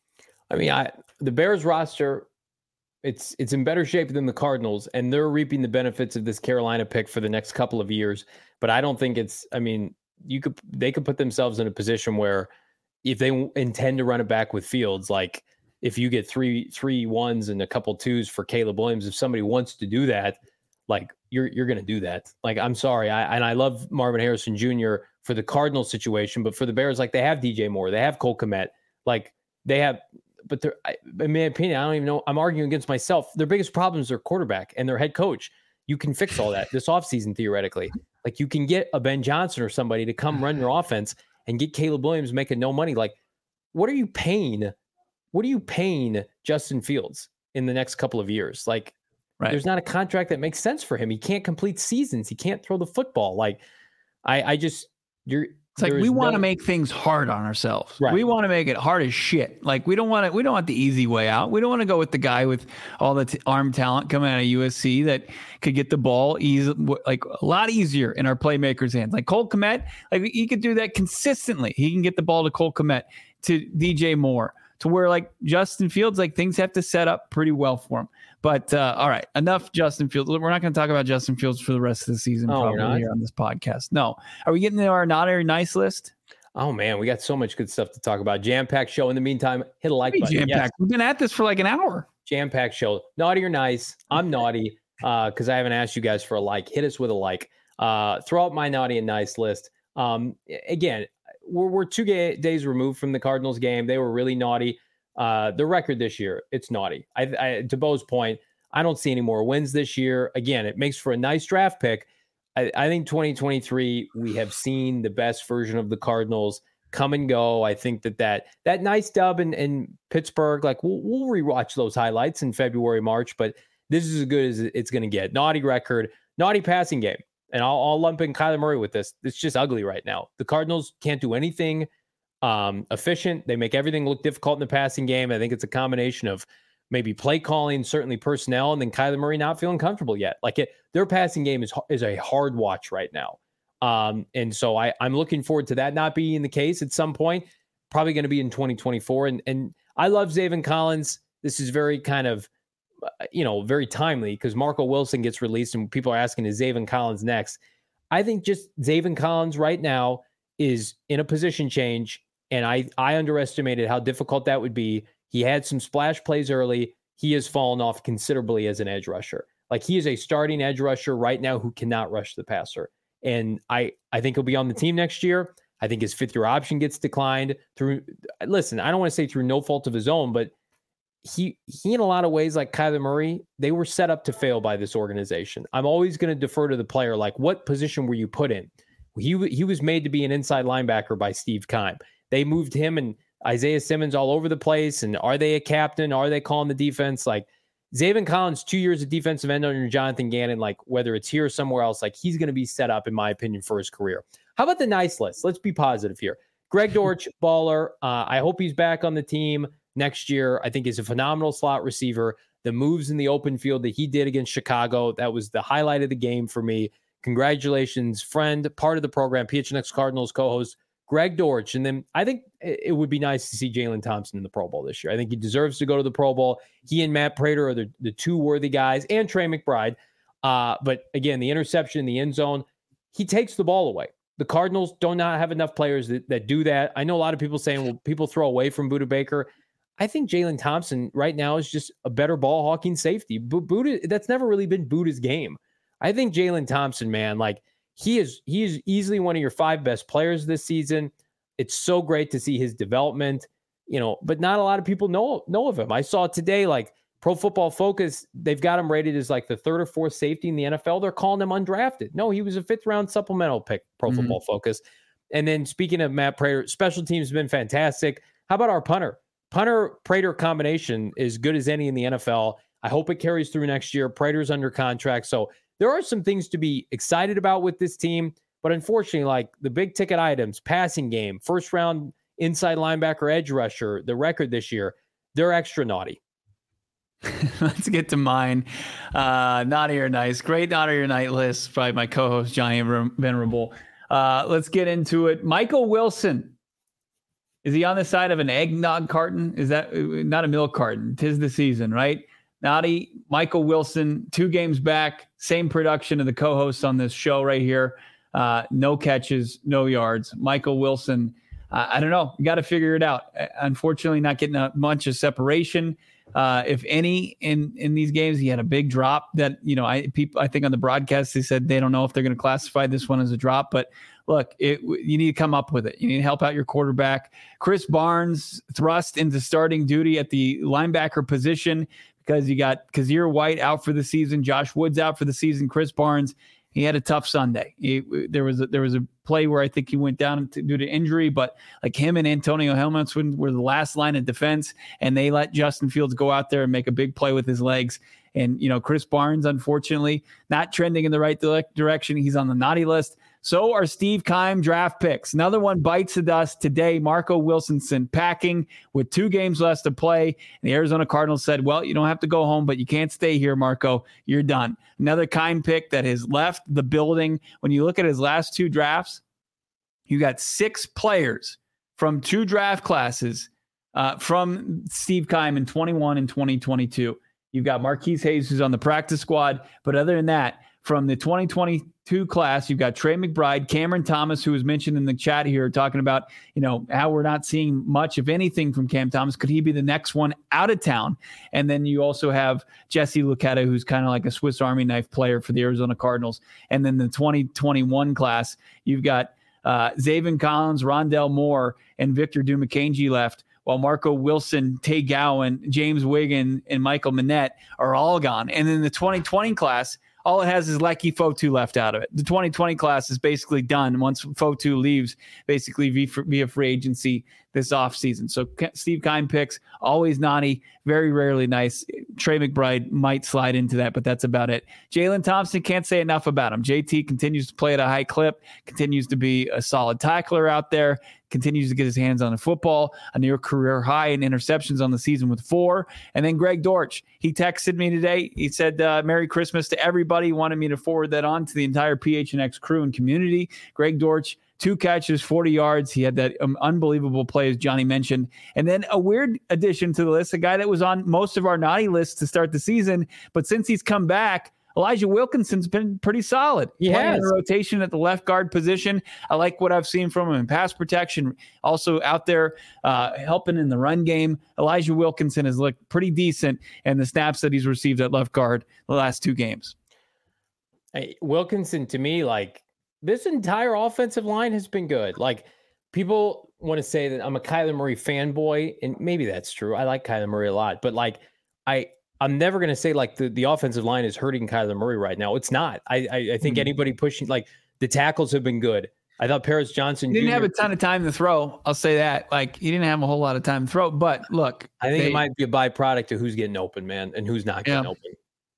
[SPEAKER 3] I mean, I the Bears roster, it's it's in better shape than the Cardinals, and they're reaping the benefits of this Carolina pick for the next couple of years. But I don't think it's. I mean, you could they could put themselves in a position where if they intend to run it back with Fields, like if you get three three ones and a couple twos for Caleb Williams, if somebody wants to do that, like you're you're going to do that. Like, I'm sorry. I, and I love Marvin Harrison Junior for the Cardinals situation, but for the Bears, like they have D J Moore, they have Cole Kmet, like they have, but they're, I, in my opinion, I don't even know. I'm arguing against myself. Their biggest problems are quarterback and their head coach. You can fix all that this offseason, theoretically. Like you can get a Ben Johnson or somebody to come run your offense and get Caleb Williams making no money. Like, what are you paying? What are you paying Justin Fields in the next couple of years? Like, right. There's not a contract that makes sense for him. He can't complete seasons. He can't throw the football. Like, I, I just, you're,
[SPEAKER 2] It's like we want to no... make things hard on ourselves. Right. We want to make it hard as shit. Like we don't want to. We don't want the easy way out. We don't want to go with the guy with all the t- arm talent coming out of U S C that could get the ball easy, like a lot easier in our playmakers' hands. Like Cole Kmet, like he could do that consistently. He can get the ball to Cole Kmet, to D J Moore, to where like Justin Fields, like things have to set up pretty well for him. But uh, all right, enough Justin Fields. We're not going to talk about Justin Fields for the rest of the season oh, probably here on this podcast. No. Are we getting to our not very nice list?
[SPEAKER 3] Oh, man, we got so much good stuff to talk about. Jam-packed show. In the meantime, hit a like button.
[SPEAKER 2] Jam-packed. Yes. We've been at this for like an hour.
[SPEAKER 3] Jam-packed show. Naughty or nice? I'm naughty because uh, I haven't asked you guys for a like. Hit us with a like. Uh, throw out my naughty and nice list. Um, again, we're, we're two ga- days removed from the Cardinals game. They were really naughty. Uh, the record this year, it's naughty. I, I, to Bo's point, I don't see any more wins this year. Again, it makes for a nice draft pick. I, I think twenty twenty-three, we have seen the best version of the Cardinals come and go. I think that that, that nice dub in, in Pittsburgh, like we'll, we'll rewatch those highlights in February, March, but this is as good as it's going to get. Naughty record, naughty passing game. And I'll, I'll lump in Kyler Murray with this. It's just ugly right now. The Cardinals can't do anything um, efficient. They make everything look difficult in the passing game. I think it's a combination of maybe play calling, certainly personnel, and then Kyler Murray not feeling comfortable yet. Like it, their passing game is is a hard watch right now. Um, and so I, I'm looking forward to that not being the case at some point, probably going to be in twenty twenty-four. And and I love Zaven Collins. This is very kind of, you know, very timely because Marco Wilson gets released and people are asking, is Zaven Collins next? I think just Zaven Collins right now is in a position change. And I, I underestimated how difficult that would be. He had some splash plays early. He has fallen off considerably as an edge rusher. Like he is a starting edge rusher right now who cannot rush the passer. And I, I think he'll be on the team next year. I think his fifth year option gets declined through, listen, I don't want to say through no fault of his own, but he, he in a lot of ways, like Kyler Murray, they were set up to fail by this organization. I'm always going to defer to the player. Like what position were you put in? He, he was made to be an inside linebacker by Steve Keim. They moved him and Isaiah Simmons all over the place. And are they a captain? Are they calling the defense? Like Zaven Collins, two years of defensive end under Jonathan Gannon, like whether it's here or somewhere else, like he's going to be set up, in my opinion, for his career. How about the nice list? Let's be positive here. Greg Dortch, baller. Uh, I hope he's back on the team next year. I think he's a phenomenal slot receiver. The moves in the open field that he did against Chicago, that was the highlight of the game for me. Congratulations, friend, part of the program, P H N X Cardinals co-host, Greg Dortch. And then I think it would be nice to see Jalen Thompson in the Pro Bowl this year. I think he deserves to go to the Pro Bowl. He and Matt Prater are the, the two worthy guys, and Trey McBride. Uh, but again, the interception in the end zone, he takes the ball away. The Cardinals do not have enough players that, that do that. I know a lot of people saying, well, people throw away from Budda Baker. I think Jalen Thompson right now is just a better ball hawking safety. B- Budda, that's never really been Budda's game. I think Jalen Thompson, man, like he is, he is easily one of your five best players this season. It's so great to see his development, you know, but not a lot of people know, know of him. I saw today, like Pro Football Focus, they've got him rated as like the third or fourth safety in the N F L. They're calling him undrafted. No, he was a fifth round supplemental pick, Pro mm-hmm. Football Focus. And then speaking of Matt Prater, special teams have been fantastic. How about our punter? Punter Prater combination is good as any in the N F L. I hope it carries through next year. Prater's under contract. So there are some things to be excited about with this team. But unfortunately, like the big ticket items, passing game, first round inside linebacker, edge rusher, the record this year, they're extra naughty.
[SPEAKER 2] Let's get to mine. Uh, naughty or nice. Great naughty or night list by my co-host, Johnny Venerable. Uh, let's get into it. Michael Wilson. Is he on the side of an eggnog carton? Is that not a milk carton? 'Tis the season, right? Naughty, Michael Wilson, two games back, same production of the co-hosts on this show right here. Uh, no catches, no yards. Michael Wilson, uh, I don't know. You got to figure it out. Unfortunately, not getting a bunch of separation. Uh, if any, in, in these games, he had a big drop that, you know, I people I think on the broadcast, they said they don't know if they're going to classify this one as a drop. But look, it, you need to come up with it. You need to help out your quarterback. Chris Barnes thrust into starting duty at the linebacker position because you got Kazir White out for the season, Josh Woods out for the season, Chris Barnes. He had a tough Sunday. He, there was a, there was a play where I think he went down to, due to injury, but like him and Antonio Helmuth were the last line of defense, and they let Justin Fields go out there and make a big play with his legs. And, you know, Chris Barnes, unfortunately, not trending in the right direction. He's on the naughty list. So are Steve Keim draft picks. Another one bites the dust today. Marco Wilson sent packing with two games left to play. And the Arizona Cardinals said, well, you don't have to go home, but you can't stay here, Marco. You're done. Another Keim pick that has left the building. When you look at his last two drafts, you got six players from two draft classes uh, from Steve Keim in twenty-one and twenty twenty-two. You've got Marquise Hayes, who's on the practice squad. But other than that, from the twenty twenty-two class, you've got Trey McBride, Cameron Thomas, who was mentioned in the chat here, talking about, you know, how we're not seeing much of anything from Cam Thomas. Could he be the next one out of town? And then you also have Jesse Luketa, who's kind of like a Swiss Army knife player for the Arizona Cardinals. And then the twenty twenty-one class, you've got uh, Zaven Collins, Rondell Moore, and Victor Dumakanji left, while Marco Wilson, Tay Gowan, James Wiggin, and Michael Manette are all gone. And then the twenty twenty class, all it has is Leki Fotu left out of it. The twenty twenty class is basically done once Fotu leaves, basically via free agency this offseason. So Steve Keim picks, always naughty, very rarely nice. Trey McBride might slide into that, but that's about it. Jalen Thompson, can't say enough about him. J T continues to play at a high clip, continues to be a solid tackler out there, continues to get his hands on the football, a near career high in interceptions on the season with four. And then Greg Dortch, he texted me today. He said, uh, Merry Christmas to everybody. He wanted me to forward that on to the entire P H N X crew and community. Greg Dortch, two catches, forty yards. He had that um, unbelievable play, as Johnny mentioned. And then a weird addition to the list, a guy that was on most of our naughty lists to start the season, but since he's come back, Elijah Wilkinson's been pretty solid.
[SPEAKER 3] He has
[SPEAKER 2] a rotation at the left guard position. I like what I've seen from him in pass protection. Also out there uh, helping in the run game. Elijah Wilkinson has looked pretty decent in the snaps that he's received at left guard the last two games.
[SPEAKER 3] Hey, Wilkinson, to me, like, this entire offensive line has been good. Like, people want to say that I'm a Kyler Murray fanboy, and maybe that's true. I like Kyler Murray a lot, but like, I. I'm never going to say like the, the offensive line is hurting Kyler Murray right now. It's not. I I, I think mm-hmm. anybody pushing, like, the tackles have been good. I thought Paris Johnson
[SPEAKER 2] he didn't
[SPEAKER 3] Junior
[SPEAKER 2] have a ton of time to throw. I'll say that. Like, he didn't have a whole lot of time to throw. But look,
[SPEAKER 3] I think
[SPEAKER 2] they,
[SPEAKER 3] it might be a byproduct of who's getting open, man, and who's not getting yeah. open.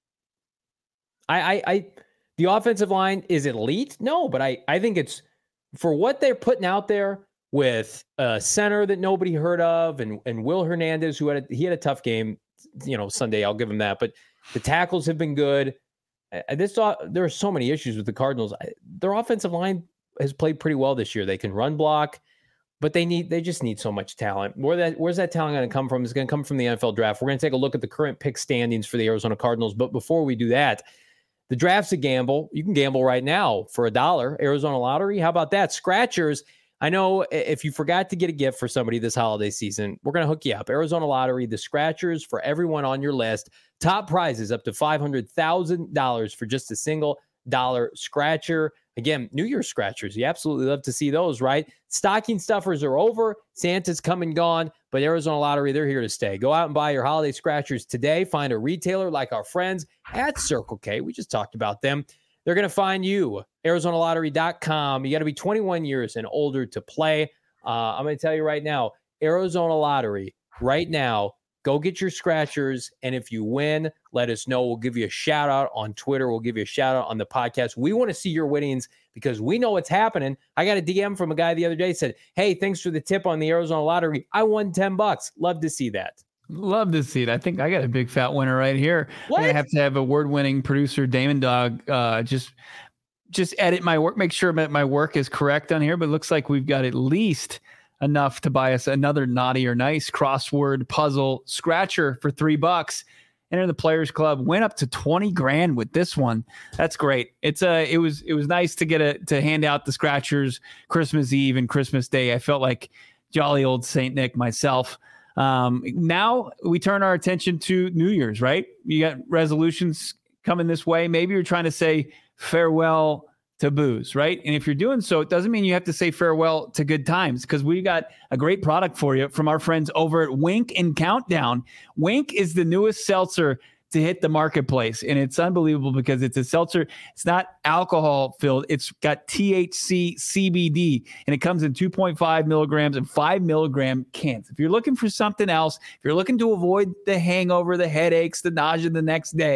[SPEAKER 3] I, I I the offensive line is elite. No, but I I think it's for what they're putting out there with a center that nobody heard of, and and Will Hernandez, who had a, he had a tough game. You know, Sunday, I'll give them that. But the tackles have been good. I, this there are so many issues with the Cardinals. I, their offensive line has played pretty well this year. They can run block, but they need they just need so much talent. Where that where's that talent going to come from? It's going to come from the N F L draft. We're going to take a look at the current pick standings for the Arizona Cardinals. But before we do that, the draft's a gamble. You can gamble right now for a dollar. Arizona Lottery. How about that? Scratchers. I know if you forgot to get a gift for somebody this holiday season, we're going to hook you up. Arizona Lottery, the scratchers for everyone on your list. Top prizes up to five hundred thousand dollars for just a single dollar scratcher. Again, New Year's scratchers. You absolutely love to see those, right? Stocking stuffers are over. Santa's come and gone, but Arizona Lottery, they're here to stay. Go out and buy your holiday scratchers today. Find a retailer like our friends at Circle K. We just talked about them. They're going to find you, Arizona Lottery dot com. You got to be twenty-one years and older to play. Uh, I'm going to tell you right now, Arizona Lottery, right now, go get your scratchers. And if you win, let us know. We'll give you a shout out on Twitter. We'll give you a shout out on the podcast. We want to see your winnings because we know what's happening. I got a D M from a guy the other day, said, hey, thanks for the tip on the Arizona Lottery. I won ten bucks. Love to see that.
[SPEAKER 2] Love to see it. I think I got a big fat winner right here.
[SPEAKER 3] What?
[SPEAKER 2] I have to have a word-winning producer, Damon Dog, uh, just just edit my work, make sure that my work is correct on here. But it looks like we've got at least enough to buy us another naughty or nice crossword puzzle scratcher for three bucks. Enter the Players Club. Went up to twenty grand with this one. That's great. It's a. It was. It was nice to get a to hand out the scratchers Christmas Eve and Christmas Day. I felt like jolly old Saint Nick myself. Um, now we turn our attention to New Year's, right? You got resolutions coming this way. Maybe you're trying to say farewell to booze, right? And if you're doing so, it doesn't mean you have to say farewell to good times, because we got a great product for you from our friends over at Wink and Countdown. Wink is the newest seltzer to hit the marketplace, and it's unbelievable because it's a seltzer. It's not alcohol filled. It's got T H C, C B D, and it comes in two point five milligrams and five milligram cans. If you're looking for something else, if you're looking to avoid the hangover, the headaches, the nausea the next day,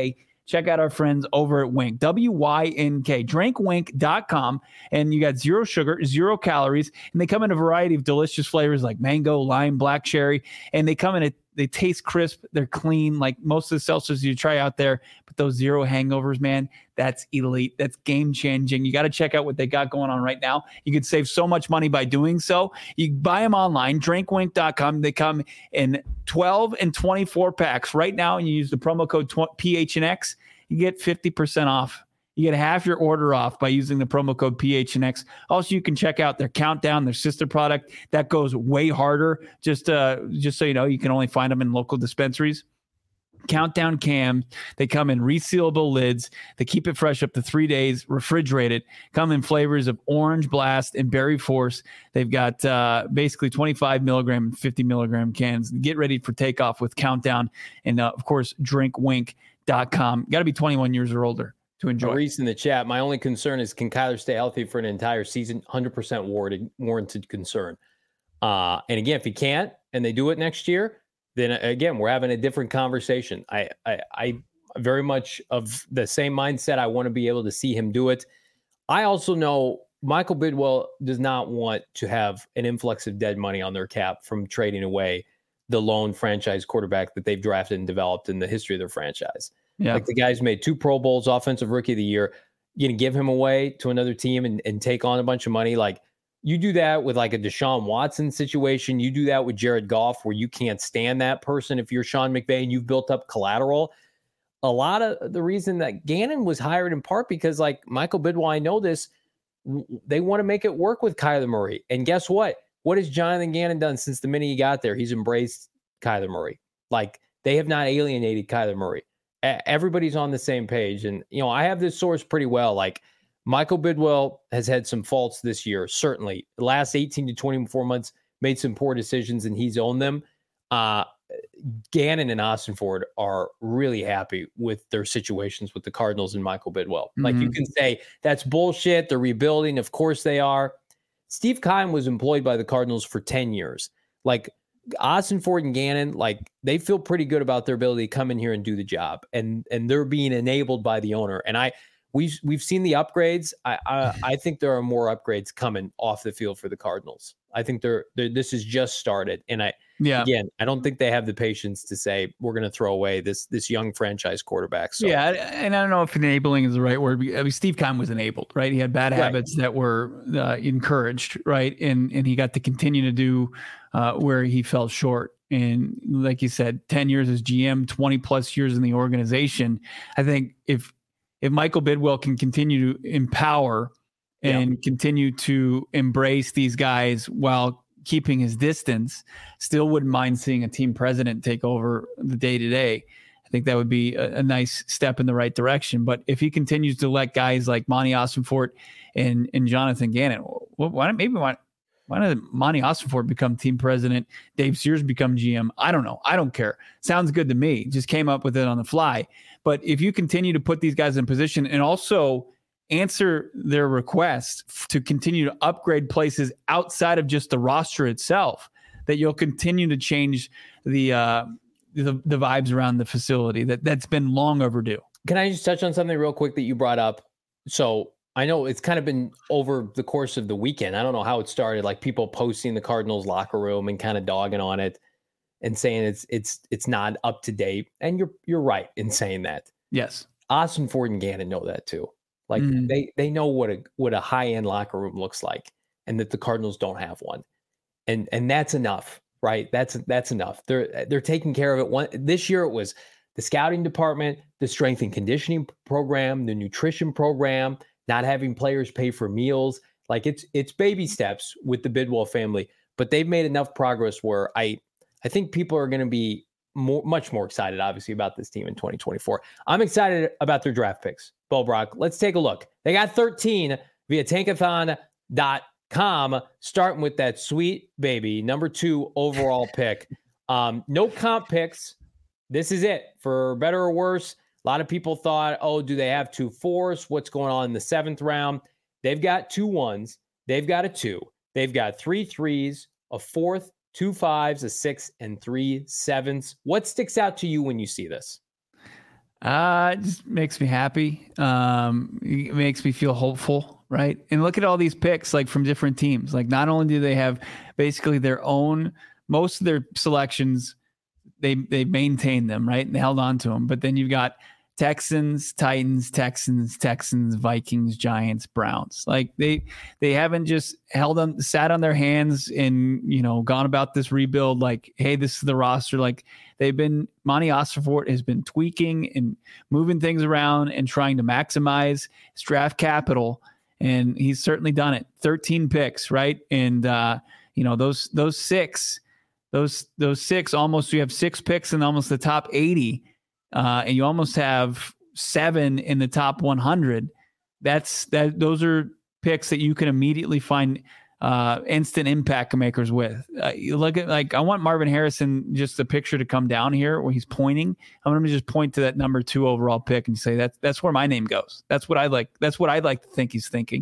[SPEAKER 2] check out our friends over at Wink, W Y N K, drink wink dot com. And you got zero sugar, zero calories, and they come in a variety of delicious flavors like mango, lime, black cherry, and they come in a They taste crisp. They're clean, like most of the seltzers you try out there. But those zero hangovers, man, that's elite. That's game changing. You got to check out what they got going on right now. You could save so much money by doing so. You buy them online, drink wink dot com. They come in twelve and twenty-four packs right now, and you use the promo code P H N X. You get fifty percent off. You get half your order off by using the promo code P H N X. Also, you can check out their Countdown, their sister product. That goes way harder. Just uh, just so you know, you can only find them in local dispensaries. Countdown cam. They come in resealable lids. They keep it fresh up to three days, refrigerated. Come in flavors of Orange Blast and Berry Force. They've got uh, basically twenty-five milligram and fifty milligram cans. Get ready for takeoff with Countdown. And, uh, of course, drink wink dot com. Got to be twenty-one years or older to enjoy.
[SPEAKER 3] Maurice in the chat. My only concern is, can Kyler stay healthy for an entire season? one hundred percent warranted, warranted concern. Uh, and again, if he can't, and they do it next year, then again, we're having a different conversation. I, I, I very much of the same mindset. I want to be able to see him do it. I also know Michael Bidwell does not want to have an influx of dead money on their cap from trading away the lone franchise quarterback that they've drafted and developed in the history of their franchise. Yeah. Like the guy's made two Pro Bowls, offensive rookie of the year. You're going to give him away to another team and, and take on a bunch of money. Like you do that with like a Deshaun Watson situation. You do that with Jared Goff, where you can't stand that person. If you're Sean McVay and you've built up collateral, a lot of the reason that Gannon was hired in part because like Michael Bidwell, I know this, they want to make it work with Kyler Murray. And guess what? What has Jonathan Gannon done since the minute he got there? He's embraced Kyler Murray. Like they have not alienated Kyler Murray. Everybody's on the same page. And, you know, I have this source pretty well. Like Michael Bidwell has had some faults this year. Certainly the last eighteen to twenty-four months made some poor decisions and he's owned them. Uh, Gannon and Ossenford are really happy with their situations with the Cardinals and Michael Bidwell. Mm-hmm. Like you can say that's bullshit. They're rebuilding. Of course they are. Steve Keim was employed by the Cardinals for ten years. Like Ossenford and Gannon, like they feel pretty good about their ability to come in here and do the job, and and they're being enabled by the owner. And I we've we've seen the upgrades. I I, I think there are more upgrades coming off the field for the Cardinals. I think they're, they're this has just started, and I yeah again I don't think they have the patience to say we're going to throw away this this young franchise quarterback. So.
[SPEAKER 2] Yeah, and I don't know if enabling is the right word. I mean, Steve Keim was enabled, right? He had bad right. habits that were uh, encouraged, right? And and he got to continue to do uh, where he fell short. And like you said, ten years as G M, twenty plus years in the organization. I think if if Michael Bidwell can continue to empower and yeah. continue to embrace these guys while keeping his distance, still wouldn't mind seeing a team president take over the day-to-day. I think that would be a, a nice step in the right direction. But if he continues to let guys like Monty Ossenfort and, and Jonathan Gannon, well, why not, maybe why, why not Monty Ossenfort become team president, Dave Sears become G M? I don't know. I don't care. Sounds good to me. Just came up with it on the fly. But if you continue to put these guys in position and also answer their requests to continue to upgrade places outside of just the roster itself, that you'll continue to change the uh, the, the vibes around the facility. That that's been long overdue.
[SPEAKER 3] Can I just touch on something real quick that you brought up? So I know it's kind of been over the course of the weekend. I don't know how it started, like people posting the Cardinals locker room and kind of dogging on it and saying it's it's it's not up to date. And you're you're right in saying that.
[SPEAKER 2] Yes.
[SPEAKER 3] Ossenford and Gannon know that too. Like mm. they they know what a what a high-end locker room looks like, and that the Cardinals don't have one. And and that's enough, right? That's that's enough. They're they're taking care of it. One this year it was the scouting department, the strength and conditioning program, the nutrition program, not having players pay for meals. Like it's it's baby steps with the Bidwell family, but they've made enough progress where I I think people are going to be more much more excited, obviously, about this team in twenty twenty-four. I'm excited about their draft picks. Bo Brock, let's take a look. They got thirteen via tankathon dot com, starting with that sweet baby, number two overall pick. Um, no comp picks. This is it. For better or worse, a lot of people thought, oh, do they have two fours? What's going on in the seventh round? They've got two ones. They've got a two. They've got three threes, a fourth, two fives, a six, and three sevens. What sticks out to you when you see this?
[SPEAKER 2] Uh, it just makes me happy. Um, it makes me feel hopeful, right? And look at all these picks, like from different teams. Like not only do they have basically their own, most of their selections, they they maintain them, right? And they held on to them. But then you've got Texans, Titans, Texans, Texans, Vikings, Giants, Browns. Like they they haven't just held on, sat on their hands and, you know, gone about this rebuild like, hey, this is the roster. Like they've been, Monty Ossenfort has been tweaking and moving things around and trying to maximize his draft capital. And he's certainly done it. thirteen picks, right? And uh, you know, those those six, those those six almost, you have six picks in almost the top eighty. Uh, and you almost have seven in the top one hundred. That's that. Those are picks that you can immediately find uh, instant impact makers with. Uh, you look at like I want Marvin Harrison, just the picture to come down here where he's pointing. I'm going to just point to that number two overall pick and say that's that's where my name goes. That's what I like. That's what I'd like to think he's thinking.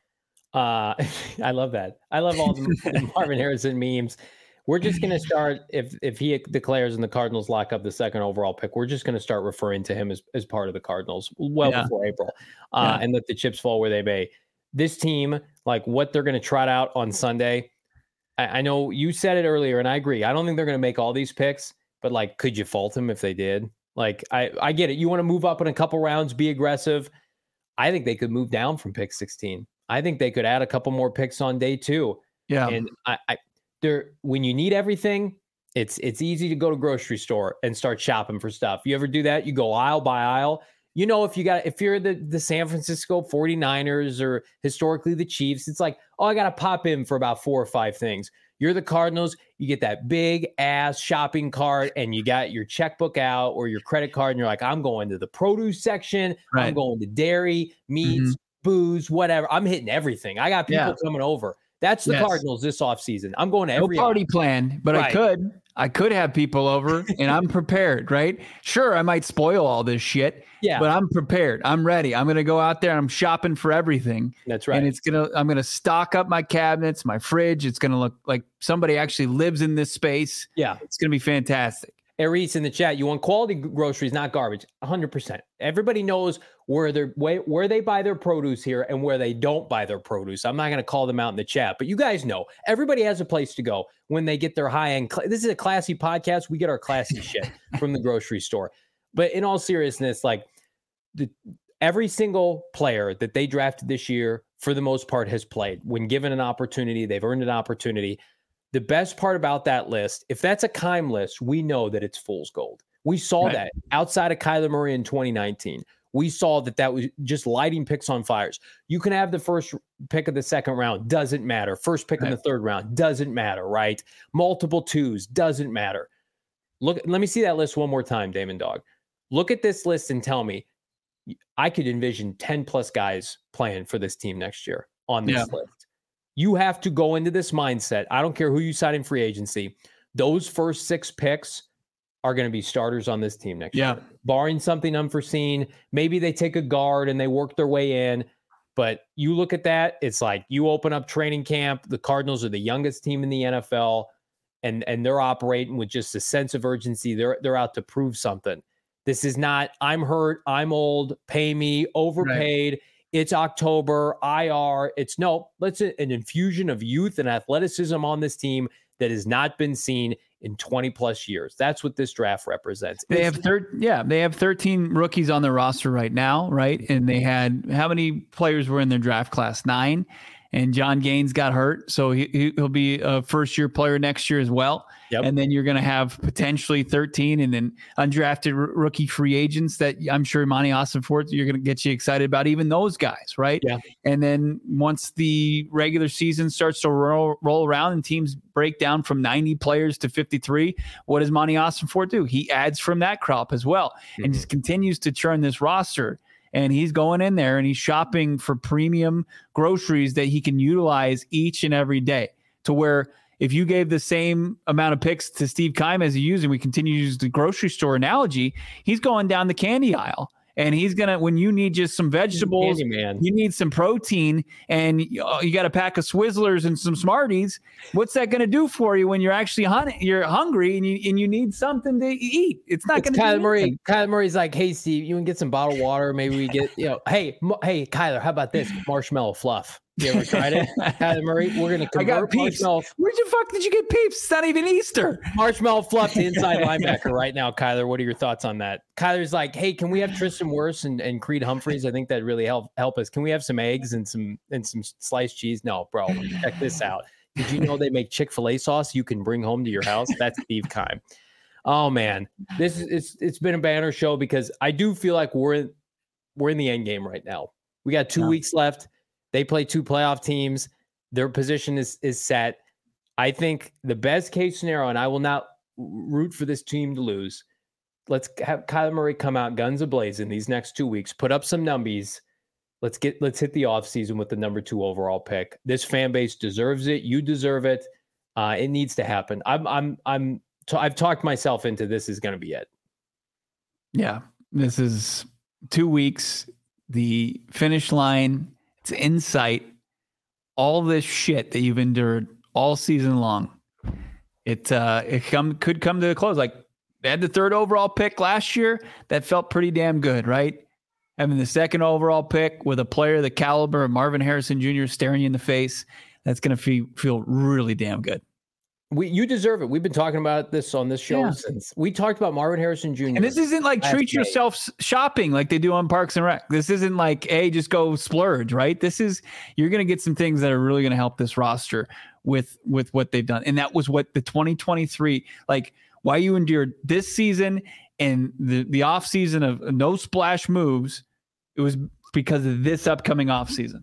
[SPEAKER 3] Uh, I love that. I love all the Marvin Harrison memes. We're just going to start, if if he declares and the Cardinals lock up the second overall pick, we're just going to start referring to him as, as part of the Cardinals well yeah. before April uh, yeah. and let the chips fall where they may. This team, like what they're going to trot out on Sunday, I, I know you said it earlier, and I agree. I don't think they're going to make all these picks, but like, could you fault them if they did? Like, I, I get it. You want to move up in a couple rounds, be aggressive. I think they could move down from pick sixteen. I think they could add a couple more picks on day two. Yeah. And I, I There, when you need everything, it's it's easy to go to grocery store and start shopping for stuff. You ever do that? You go aisle by aisle. You know, if you got if you're the, the San Francisco forty-niners or historically the Chiefs, it's like, oh, I got to pop in for about four or five things. You're the Cardinals, you get that big ass shopping cart and you got your checkbook out or your credit card and you're like, I'm going to the produce section. Right. I'm going to dairy, meats, mm-hmm. booze, whatever. I'm hitting everything. I got people yeah. coming over. That's the yes. Cardinals this offseason. I'm going to every
[SPEAKER 2] no party plan, but right. I could. I could have people over and I'm prepared, right? Sure, I might spoil all this shit, yeah. but I'm prepared. I'm ready. I'm going to go out there and I'm shopping for everything.
[SPEAKER 3] That's right.
[SPEAKER 2] And it's going to I'm going to stock up my cabinets, my fridge. It's going to look like somebody actually lives in this space.
[SPEAKER 3] Yeah.
[SPEAKER 2] It's going to be fantastic.
[SPEAKER 3] Aries in the chat, you want quality groceries, not garbage. one hundred percent. Everybody knows where they're where they buy their produce here and where they don't buy their produce. I'm not going to call them out in the chat, but you guys know everybody has a place to go when they get their high-end. Cl- this is a classy podcast. We get our classy shit from the grocery store. But in all seriousness, like the, every single player that they drafted this year, for the most part, has played. When given an opportunity, they've earned an opportunity. The best part about that list, if that's a Keim list, we know that it's fool's gold. We saw right. that outside of Kyler Murray in twenty nineteen. We saw that that was just lighting picks on fires. You can have the first pick of the second round, doesn't matter. First pick right. in the third round, doesn't matter, right? Multiple twos, doesn't matter. Look, let me see that list one more time, Damon Dog. Look at this list and tell me, I could envision ten plus guys playing for this team next year on this yeah. list. You have to go into this mindset. I don't care who you sign in free agency. Those first six picks are going to be starters on this team next
[SPEAKER 2] yeah.
[SPEAKER 3] year. Barring something unforeseen, maybe they take a guard and they work their way in. But you look at that, it's like you open up training camp. The Cardinals are the youngest team in the N F L, and, and they're operating with just a sense of urgency. They're, they're out to prove something. This is not, I'm hurt, I'm old, pay me, overpaid. Right. It's October, I R. It's no, let's an infusion of youth and athleticism on this team that has not been seen in twenty plus years. That's what this draft represents.
[SPEAKER 2] They it's, have thir- yeah, they have thirteen rookies on the roster right now, right? And they had how many players were in their draft class? Nine. And John Gaines got hurt, so he, he'll be a first-year player next year as well. Yep. And then you're going to have potentially thirteen and then undrafted r- rookie free agents that I'm sure Monty Ossenfort, you're going to get you excited about, even those guys, right?
[SPEAKER 3] Yeah.
[SPEAKER 2] And then once the regular season starts to roll, roll around and teams break down from ninety players to fifty-three, what does Monty Ossenfort do? He adds from that crop as well mm-hmm. and just continues to churn this roster. And he's going in there and he's shopping for premium groceries that he can utilize each and every day, to where if you gave the same amount of picks to Steve Keim as he used, and we continue to use the grocery store analogy, he's going down the candy aisle And he's going to, when you need just some vegetables,
[SPEAKER 3] man.
[SPEAKER 2] you need some protein, and you, you got a pack of Swizzlers and some Smarties. What's that going to do for you when you're actually hun- you're hungry and you and you need something to eat? It's not going to.
[SPEAKER 3] Kyler Murray. Kyler Murray's like, hey, Steve, you can get some bottled water. Maybe we get, you know, hey, hey, Kyler, how about this marshmallow fluff? You ever tried it? Kyler Murray, we're going to convert marshmallow.
[SPEAKER 2] Where'd you fuck did you get Peeps? It's not even Easter.
[SPEAKER 3] Marshmallow fluff to inside linebacker right now, Kyler. What are your thoughts on that? Kyler's like, hey, can we have Tristan Wirfs and, and Creed Humphreys? I think that really help help us. Can we have some eggs and some and some sliced cheese? No, bro, check this out. Did you know they make Chick-fil-A sauce you can bring home to your house? That's Steve Keim. Oh man, this is it's it's been a banner show because I do feel like we're in, we're in the end game right now. We got two yeah. weeks left. They play two playoff teams. Their position is is set. I think the best case scenario, and I will not root for this team to lose. Let's have Kyler Murray come out guns a-blazing these next two weeks, put up some numbies. Let's get let's hit the offseason with the number two overall pick. This fan base deserves it. You deserve it. Uh, it needs to happen. I'm I'm I'm t- I've talked myself into this is going to be it.
[SPEAKER 2] Yeah, this is two weeks. The finish line. It's in sight. All this shit that you've endured all season long. It uh, it come could come to a close. Like they had the third overall pick last year. That felt pretty damn good, right? Having the second overall pick with a player the caliber of Marvin Harrison Junior staring you in the face. That's going to feel feel really damn good.
[SPEAKER 3] We, you deserve it. We've been talking about this on this show yeah. since we talked about Marvin Harrison Junior
[SPEAKER 2] And this isn't like treat yourself shopping like they do on Parks and Rec. This isn't like, hey, just go splurge, right? This is, you're going to get some things that are really going to help this roster with, with what they've done. And that was what the twenty twenty-three, like why you endured this season and the, the off season of no splash moves. It was because of this upcoming off season.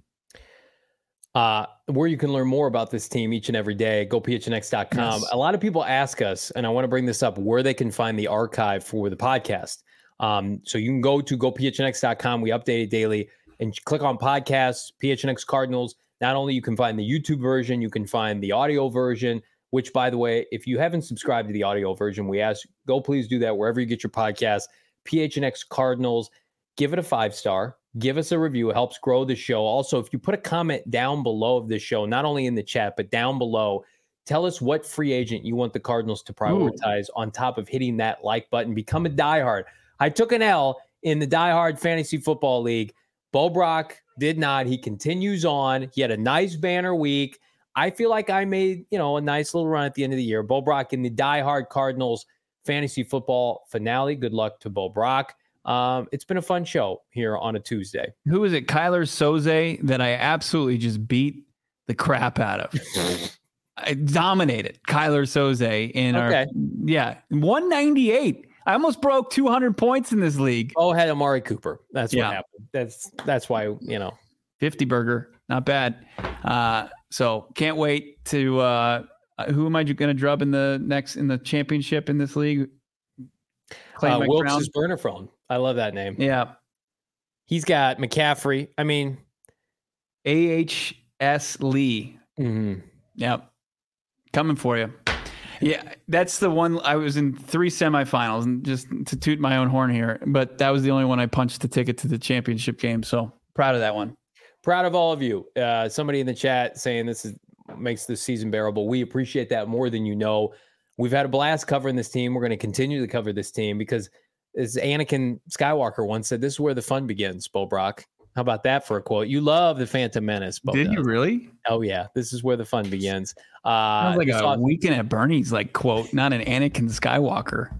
[SPEAKER 3] Uh, where you can learn more about this team each and every day, go P H N X dot com. Yes. A lot of people ask us, and I want to bring this up, where they can find the archive for the podcast. Um, so you can go to go P H N X dot com. We update it daily and click on podcasts, P H N X Cardinals. Not only you can find the YouTube version, you can find the audio version, which, by the way, if you haven't subscribed to the audio version, we ask, go please do that wherever you get your podcast. P H N X Cardinals, give it a five star. Give us a review. It helps grow the show. Also, if you put a comment down below of this show, not only in the chat, but down below, tell us what free agent you want the Cardinals to prioritize Ooh. on top of hitting that like button. Become a diehard. I took an L in the diehard fantasy football league. Bo Brock did not. He continues on. He had a nice banner week. I feel like I made, you know, a nice little run at the end of the year. Bo Brock in the diehard Cardinals fantasy football finale. Good luck to Bo Brock. Um, it's been a fun show here on a Tuesday.
[SPEAKER 2] Who is it? Kyler Soze that I absolutely just beat the crap out of. I dominated Kyler Soze in okay. our, yeah, one ninety-eight. I almost broke two hundred points in this league.
[SPEAKER 3] Oh, had Amari Cooper. That's what yeah. happened. That's, that's why, you know,
[SPEAKER 2] fifty burger, not bad. Uh, so can't wait to, uh, who am I going to drub in the next, in the championship in this league?
[SPEAKER 3] Uh, Wilkes' burner phone. I love that name.
[SPEAKER 2] Yeah.
[SPEAKER 3] He's got McCaffrey. I mean,
[SPEAKER 2] A H S Lee.
[SPEAKER 3] Mm-hmm.
[SPEAKER 2] Yep. Coming for you. Yeah. That's the one. I was in three semifinals, and just to toot my own horn here, but that was the only one I punched the ticket to the championship game. So proud of that one.
[SPEAKER 3] Proud of all of you. Uh, somebody in the chat saying this is makes this season bearable. We appreciate that more than you know. We've had a blast covering this team. We're going to continue to cover this team because, as Anakin Skywalker once said, this is where the fun begins, Bo Brock. How about that for a quote? You love the Phantom Menace, Bo.
[SPEAKER 2] Did
[SPEAKER 3] does.
[SPEAKER 2] you really?
[SPEAKER 3] Oh, yeah. This is where the fun begins.
[SPEAKER 2] Uh, Sounds like a
[SPEAKER 3] off-
[SPEAKER 2] Weekend at Bernie's like quote, not an Anakin Skywalker.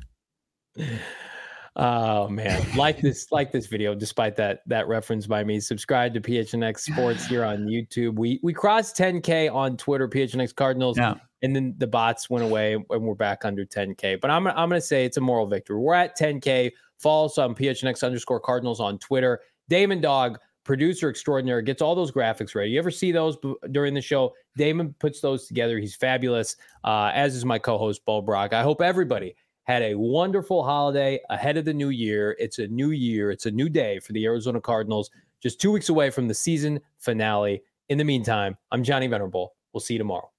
[SPEAKER 3] Oh man, like this, like this video. Despite that that reference by me, subscribe to P H N X Sports here on YouTube. We we crossed ten K on Twitter, P H N X Cardinals,
[SPEAKER 2] yeah.
[SPEAKER 3] and then the bots went away, and we're back under ten K. But I'm I'm gonna say it's a moral victory. We're at ten K. Follow us on P H N X underscore Cardinals on Twitter. Damon Dog, producer extraordinaire, gets all those graphics ready. You ever see those b- during the show? Damon puts those together. He's fabulous. Uh, as is my co-host Bo Brock. I hope everybody had a wonderful holiday ahead of the new year. It's a new year. It's a new day for the Arizona Cardinals. Just two weeks away from the season finale. In the meantime, I'm Johnny Venerable. We'll see you tomorrow.